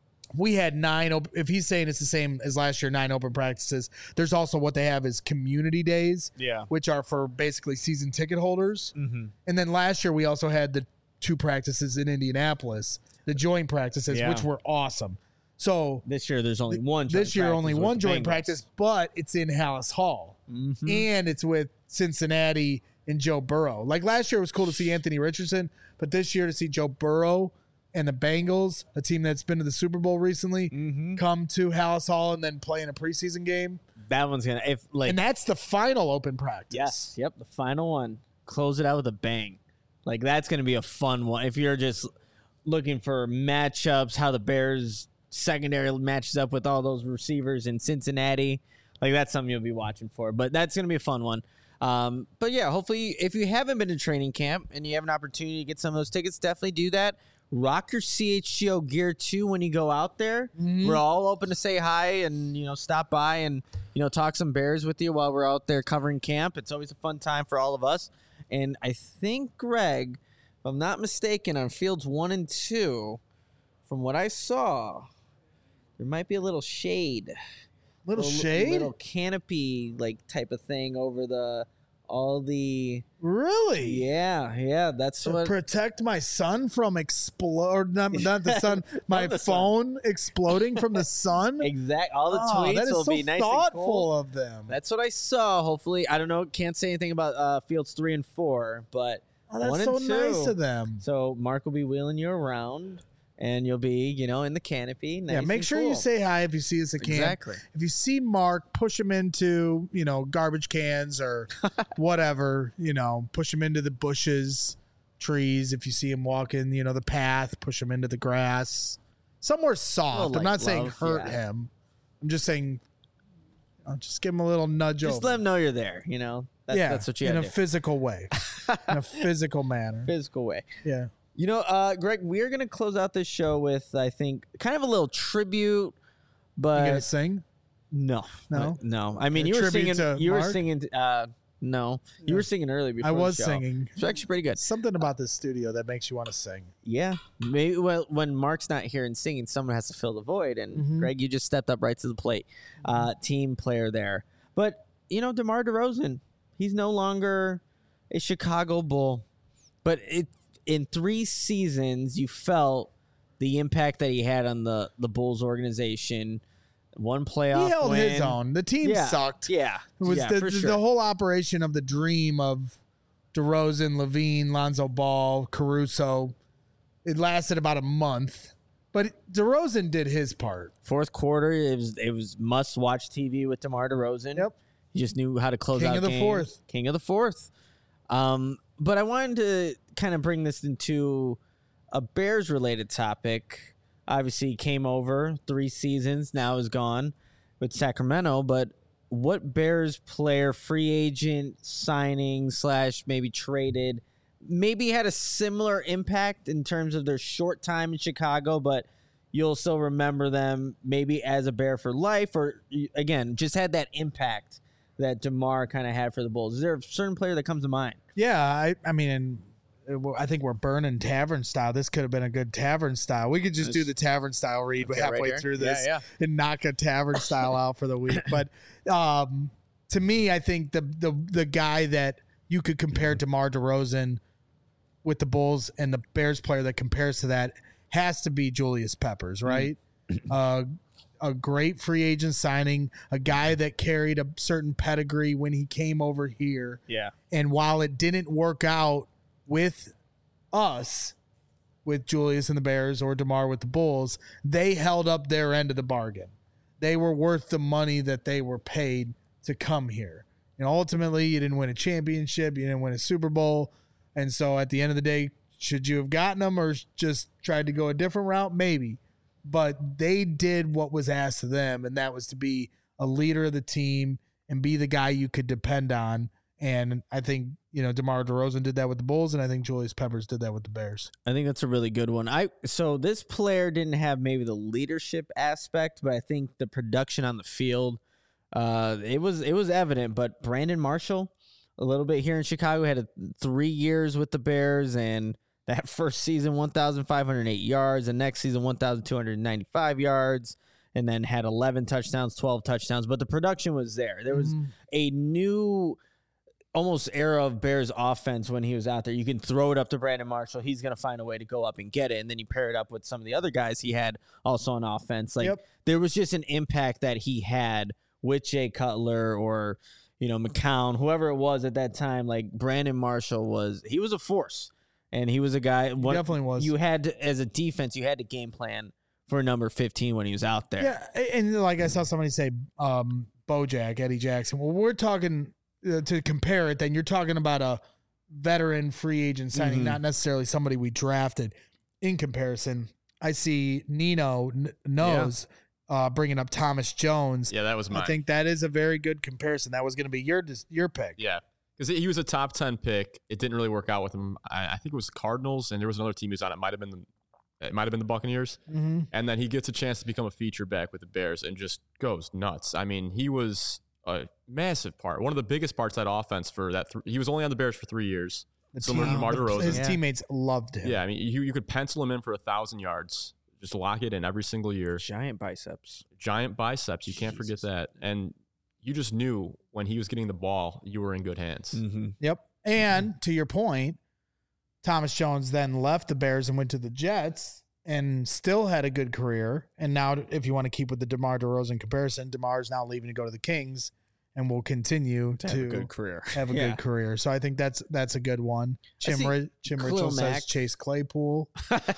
we had 9 if he's saying it's the same as last year, 9 open practices. There's also what they have is community days, which are for basically season ticket holders. And then last year we also had the 2 practices in Indianapolis, the joint practices, which were awesome. So this year there's only one. This year only one joint practice, but it's in Hallis Hall, and it's with Cincinnati and Joe Burrow. Like last year, it was cool to see Anthony Richardson, but this year to see Joe Burrow and the Bengals, a team that's been to the Super Bowl recently, come to Hallis Hall and then play in a preseason game. That one's gonna and that's the final open practice. Yes, yep, the final one. Close it out with a bang. Like that's gonna be a fun one. If you're just looking for matchups, how the Bears secondary matches up with all those receivers in Cincinnati, like that's something you'll be watching for. But that's gonna be a fun one. But yeah, hopefully if you haven't been to training camp and you have an opportunity to get some of those tickets, definitely do that. Rock your CHGO gear too when you go out there. We're all open to say hi and, you know, stop by and, you know, talk some Bears with you while we're out there covering camp. It's always a fun time for all of us. And I think, Greg, if I'm not mistaken, on fields 1 and 2, from what I saw, there might be a little shade. Little shade? Little canopy like type of thing over all the really that's to what protect my son from not the sun my phone exploding from the sun. Exactly. All the tweets that is will so be nice thoughtful and cool. of them. That's what I saw. Hopefully, I don't know, can't say anything about fields 3 and 4, but that's 1 so and 2. nice of them. So Mark will be wheeling you around and you'll be, you know, in the canopy. Nice make and sure cool. you say hi if you see us at camp. Exactly. If you see Mark, push him into, you know, garbage cans or whatever, you know, push him into the bushes, trees. If you see him walking, you know, the path, push him into the grass. Somewhere soft. I'm not saying hurt him, I'm just saying, I'll just give him a little nudge Just over. let them know you're there. That's what you in have a to do. physical way, in a physical manner. Physical way. Yeah. Greg, we're gonna close out this show with, I think, kind of a little tribute, You but gonna sing? no. I mean, A you were tribute singing. to You were Mark? singing. No, you were singing earlier before I was the show. singing. It's actually pretty good. Something about this studio that makes you want to sing. Yeah, maybe. Well, when Mark's not here and singing, someone has to fill the void, and Greg, you just stepped up right to the plate. Team player there, but DeMar DeRozan, he's no longer a Chicago Bull, but in 3 seasons, you felt the impact that he had on the Bulls organization. One playoff He held win. his own. The team sucked. Yeah, It was for sure. the whole operation of the dream of DeRozan, Levine, Lonzo Ball, Caruso. It lasted about a month, but DeRozan did his part. Fourth quarter, it was must watch TV with DeMar DeRozan. Yep. He just knew how to close King out of the games. fourth. King of the fourth. But I wanted to kind of bring this into a Bears related topic. Obviously, he came over 3 seasons, now is gone with Sacramento. But what Bears player, free agent, signing / maybe traded, maybe had a similar impact in terms of their short time in Chicago, but you'll still remember them maybe as a Bear for life, or again, just had that impact that DeMar kind of had for the Bulls? Is there a certain player that comes to mind? Yeah, I mean, I think we're burning tavern style. This could have been a good tavern style. We could just do the tavern style read halfway right through here. this Yeah. and knock a tavern style out for the week. But to me, I think the guy that you could compare DeMar DeRozan with the Bulls and the Bears player that compares to that has to be Julius Peppers, right? A great free agent signing, a guy that carried a certain pedigree when he came over here. Yeah. And while it didn't work out with us, with Julius and the Bears, or DeMar with the Bulls, they held up their end of the bargain. They were worth the money that they were paid to come here. And ultimately, you didn't win a championship. You didn't win a Super Bowl. And so at the end of the day, should you have gotten them or just tried to go a different route? Maybe. But they did what was asked of them, and that was to be a leader of the team and be the guy you could depend on. And I think, DeMar DeRozan did that with the Bulls, and I think Julius Peppers did that with the Bears. I think that's a really good one. So this player didn't have maybe the leadership aspect, but I think the production on the field, it was evident. But Brandon Marshall, a little bit here in Chicago, had 3 years with the Bears, and that first season, 1,508 yards. The next season, 1,295 yards. And then had 11 touchdowns, 12 touchdowns. But the production was there. There was a new almost era of Bears offense when he was out there. You can throw it up to Brandon Marshall. He's going to find a way to go up and get it. And then you pair it up with some of the other guys he had also on offense. There was just an impact that he had with Jay Cutler or, McCown, whoever it was at that time. Like Brandon Marshall was a force. And he was a guy. He definitely was. You had to, as a defense, you had to game plan for number 15 when he was out there. Yeah, and like I saw somebody say, Bojack, Eddie Jackson. Well, we're talking to compare it. Then you're talking about a veteran free agent signing, not necessarily somebody we drafted. In comparison, I see Nino knows bringing up Thomas Jones. Yeah, that was mine. I think that is a very good comparison. That was going to be your pick. Yeah. Because he was a top 10 pick. It didn't really work out with him. I think it was the Cardinals, and there was another team he was on. It might have been the Buccaneers. Mm-hmm. And then he gets a chance to become a feature back with the Bears and just goes nuts. I mean, he was a massive part, one of the biggest parts of that offense for that. He was only on the Bears for 3 years. Similar to DeMar DeRozan. His teammates loved him. Yeah, I mean, you could pencil him in for 1,000 yards. Just lock it in every single year. Giant biceps. You can't forget that. And you just knew when he was getting the ball, you were in good hands. Mm-hmm. Yep. And to your point, Thomas Jones then left the Bears and went to the Jets and still had a good career. And now, if you want to keep with the DeMar DeRozan comparison, DeMar is now leaving to go to the Kings and will continue to have a good career. Good career. So I think that's a good one. Chim Richell says Chase Claypool.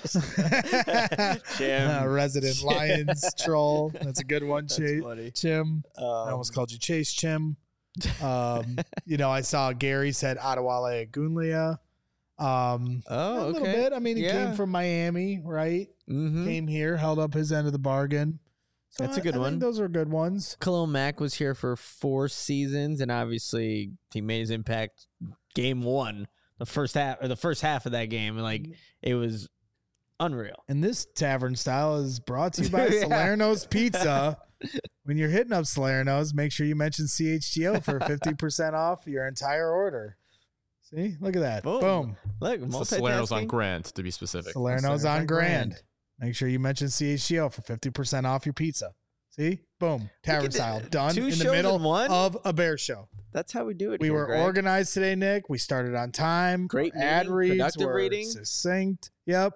Resident Lions troll. That's a good one, Chase. Chim. I almost called you Chase Chim. I saw Gary said Adewale Agunlia. A little bit. I mean, he came from Miami, right? Mm-hmm. Came here, held up his end of the bargain. So That's a good I one. think those are good ones. Khalil Mack was here for 4 seasons, and obviously he made his impact game 1, the first half of that game. Like, it was unreal. And this tavern style is brought to you by Yeah. Salerno's Pizza. When you're hitting up Salerno's, make sure you mention CHGO for 50% off your entire order. See, look at that. Boom. Look, It's the Salerno's on multitasking. Grant, to be specific. Salerno's on Grand. Make sure you mention CHGO for 50% off your pizza. See? Boom. Tavern at style. that. Done 2 in the shows middle in one? of a bear show. That's how we do it. We here, were Greg. organized today, Nick. We started on time. Great ad meeting, reads productive were reading. succinct. Yep.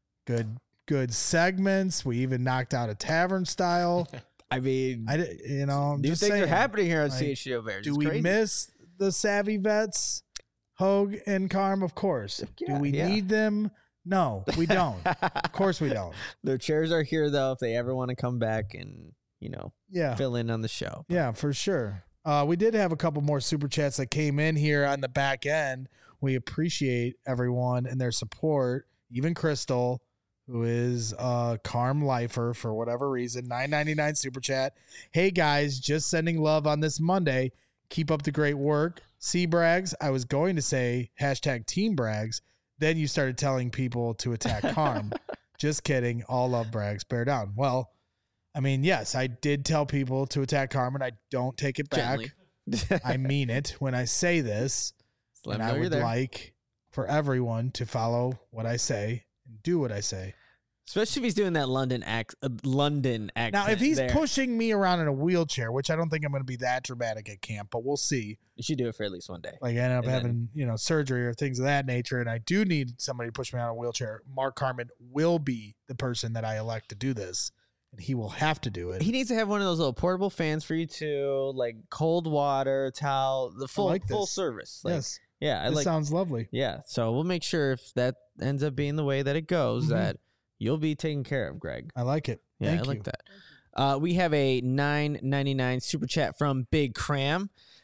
Good segments. We even knocked out a tavern style. I mean, I'm new just things saying. are happening here on Like, CHGO Bears. Do It's we crazy. miss the savvy vets, Hogue and Carm? Of course. Yeah, Do we yeah. need them? No, we don't. Of course we don't. Their chairs are here though if they ever want to come back and Yeah. fill in on the show. Yeah, for sure. We did have a couple more super chats that came in here on the back end. We appreciate everyone and their support. Even Crystal, who is a Carm lifer for whatever reason, $9.99 super chat. Hey guys, just sending love on this Monday. Keep up the great work. C Brags, I was going to say hashtag Team Brags. Then you started telling people to attack Carm. Just kidding. All love Brags. Bear down. Well, I mean, yes, I did tell people to attack Carmen. I don't take it back. Gently. I mean it when I say this. Just let And them I know you're would there. like for everyone to follow what I say and do what I say. Especially if he's doing that London accent. Now, if he's there. pushing me around in a wheelchair, which I don't think I'm going to be that dramatic at camp, but we'll see. You should do it for at least one day. Like I end up And then- having, surgery or things of that nature, and I do need somebody to push me out in a wheelchair. Mark Carmen will be the person that I elect to do this, and he will have to do it. He needs to have one of those little portable fans for you too, like cold water, towel, the full like full this. service. Like, Yes, yeah, I this like. sounds lovely. Yeah, so we'll make sure if that ends up being the way that it goes, Mhm. that you'll be taken care of, Greg. I like it. Yeah, Thank I like you. that. We have a $9.99 super chat from Big Cram.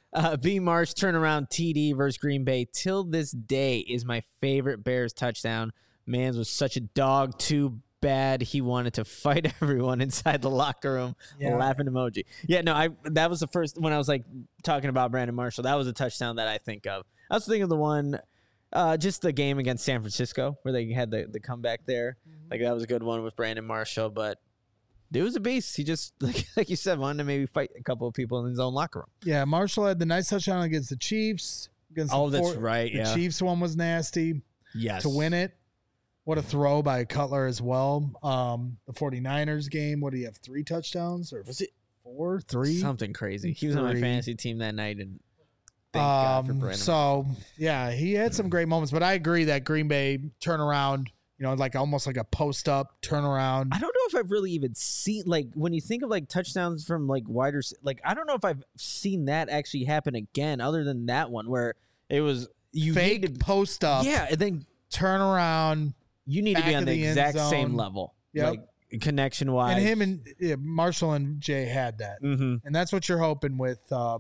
B. Marsh turnaround TD versus Green Bay till this day is my favorite Bears touchdown. Mans was such a dog, too bad he wanted to fight everyone inside the locker room. Yeah. Laughing emoji. Yeah, no, that was the first when I was like talking about Brandon Marshall. That was a touchdown that I think of. I was thinking of the one, just the game against San Francisco where they had the comeback there. Like that was a good one with Brandon Marshall, but dude was a beast. He just like you said, wanted to maybe fight a couple of people in his own locker room. Yeah, Marshall had the nice touchdown against the Chiefs. Against Oh, the that's right. The Yeah. Chiefs one was nasty Yes. to win it. What a throw by Cutler as well. The 49ers game, what do you have, 3 touchdowns? Or Was it 4, 3? something crazy? He was on my 3. fantasy team that night, and thank God for Brandon. So, yeah, he had some great moments, but I agree that Green Bay turnaround, like almost like a post-up turnaround. I don't know if I've really even seen like when you think of like touchdowns from like wider like I don't know if I've seen that actually happen again other than that one where it was you Fake need to, post-up, yeah, and then turnaround. you need to Back be on of the the end exact same zone. level, Yep. like connection wise. And him and Marshall and Jay had that. Mm-hmm. And that's what you're hoping with,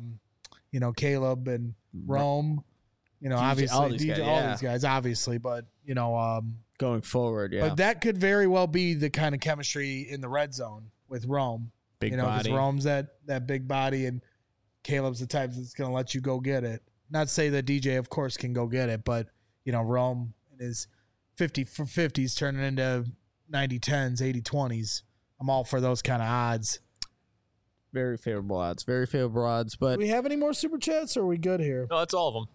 Caleb and Rome. Obviously, all these guys, all yeah. these guys, obviously, but Going forward, yeah, but that could very well be the kind of chemistry in the red zone with Rome. big Because body. Rome's that big body, and Caleb's the type that's going to let you go get it. Not to say that DJ, of course, can go get it, but Rome and his 50 for 50s turning into 90 10s, 80 20s. I'm all for those kind of odds. Very favorable odds. Very favorable odds. But Do we have any more super chats, or are we good here? No, that's all of them.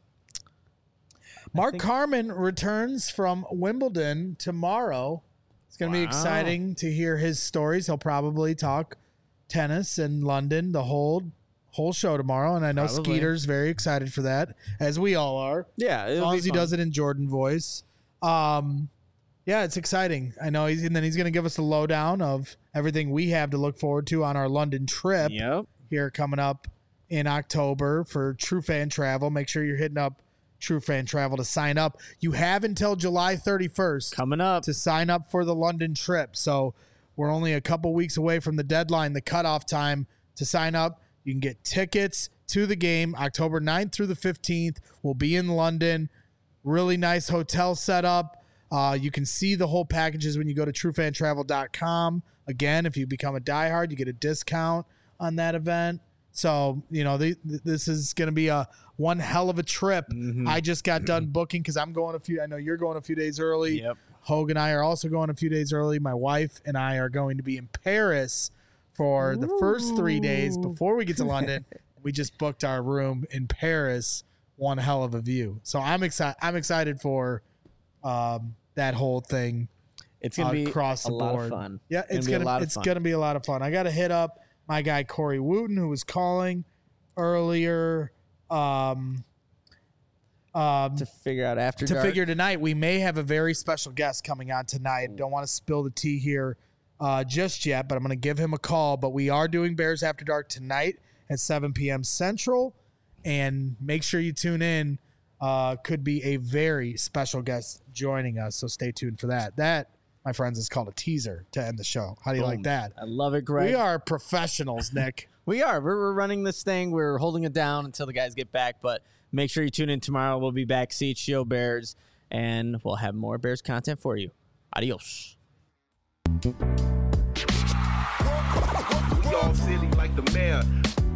Mark Carmen returns from Wimbledon tomorrow. It's going to be Wow. exciting to hear his stories. He'll probably talk tennis in London the whole show tomorrow, and I know Probably. Skeeter's very excited for that, as we all are. yeah, As long as he does it in Jordan voice. Yeah, it's exciting. I know he's going to give us the lowdown of everything we have to look forward to on our London trip Yep. here coming up in October for True Fan Travel. Make sure you're hitting up True Fan Travel to sign up. You have until July 31st Coming up. to sign up for the London trip. So we're only a couple weeks away from the deadline, the cutoff time to sign up. You can get tickets to the game October 9th through the 15th. We'll be in London. Really nice hotel setup. You can see the whole packages when you go to truefantravel.com. Again, if you become a diehard, you get a discount on that event. So, this is going to be one hell of a trip. I just got done booking because I'm going I know you're going a few days early. Yep. Hogue and I are also going a few days early. My wife and I are going to be in Paris for the first 3 days before we get to London. We just booked our room in Paris. One hell of a view. So I'm excited for that whole thing. It's gonna be across the lot board. Of fun. Yeah, it's gonna be a lot of fun. I got to hit up my guy Corey Wooten, who was calling earlier. To figure out after to dark. figure tonight, we may have a very special guest coming on tonight. Don't want to spill the tea here just yet, but I'm going to give him a call. But we are doing Bears After Dark tonight at 7 p.m. Central, and make sure you tune in. Could be a very special guest joining us, so stay tuned for that. That, my friends, is called a teaser to end the show. How do you like that? I love it, Greg. We are professionals, Nick. We are. We're running this thing. We're holding it down until the guys get back, but make sure you tune in tomorrow. We'll be back, CHGO Bears, and we'll have more Bears content for you. Adios. We all silly like the mayor.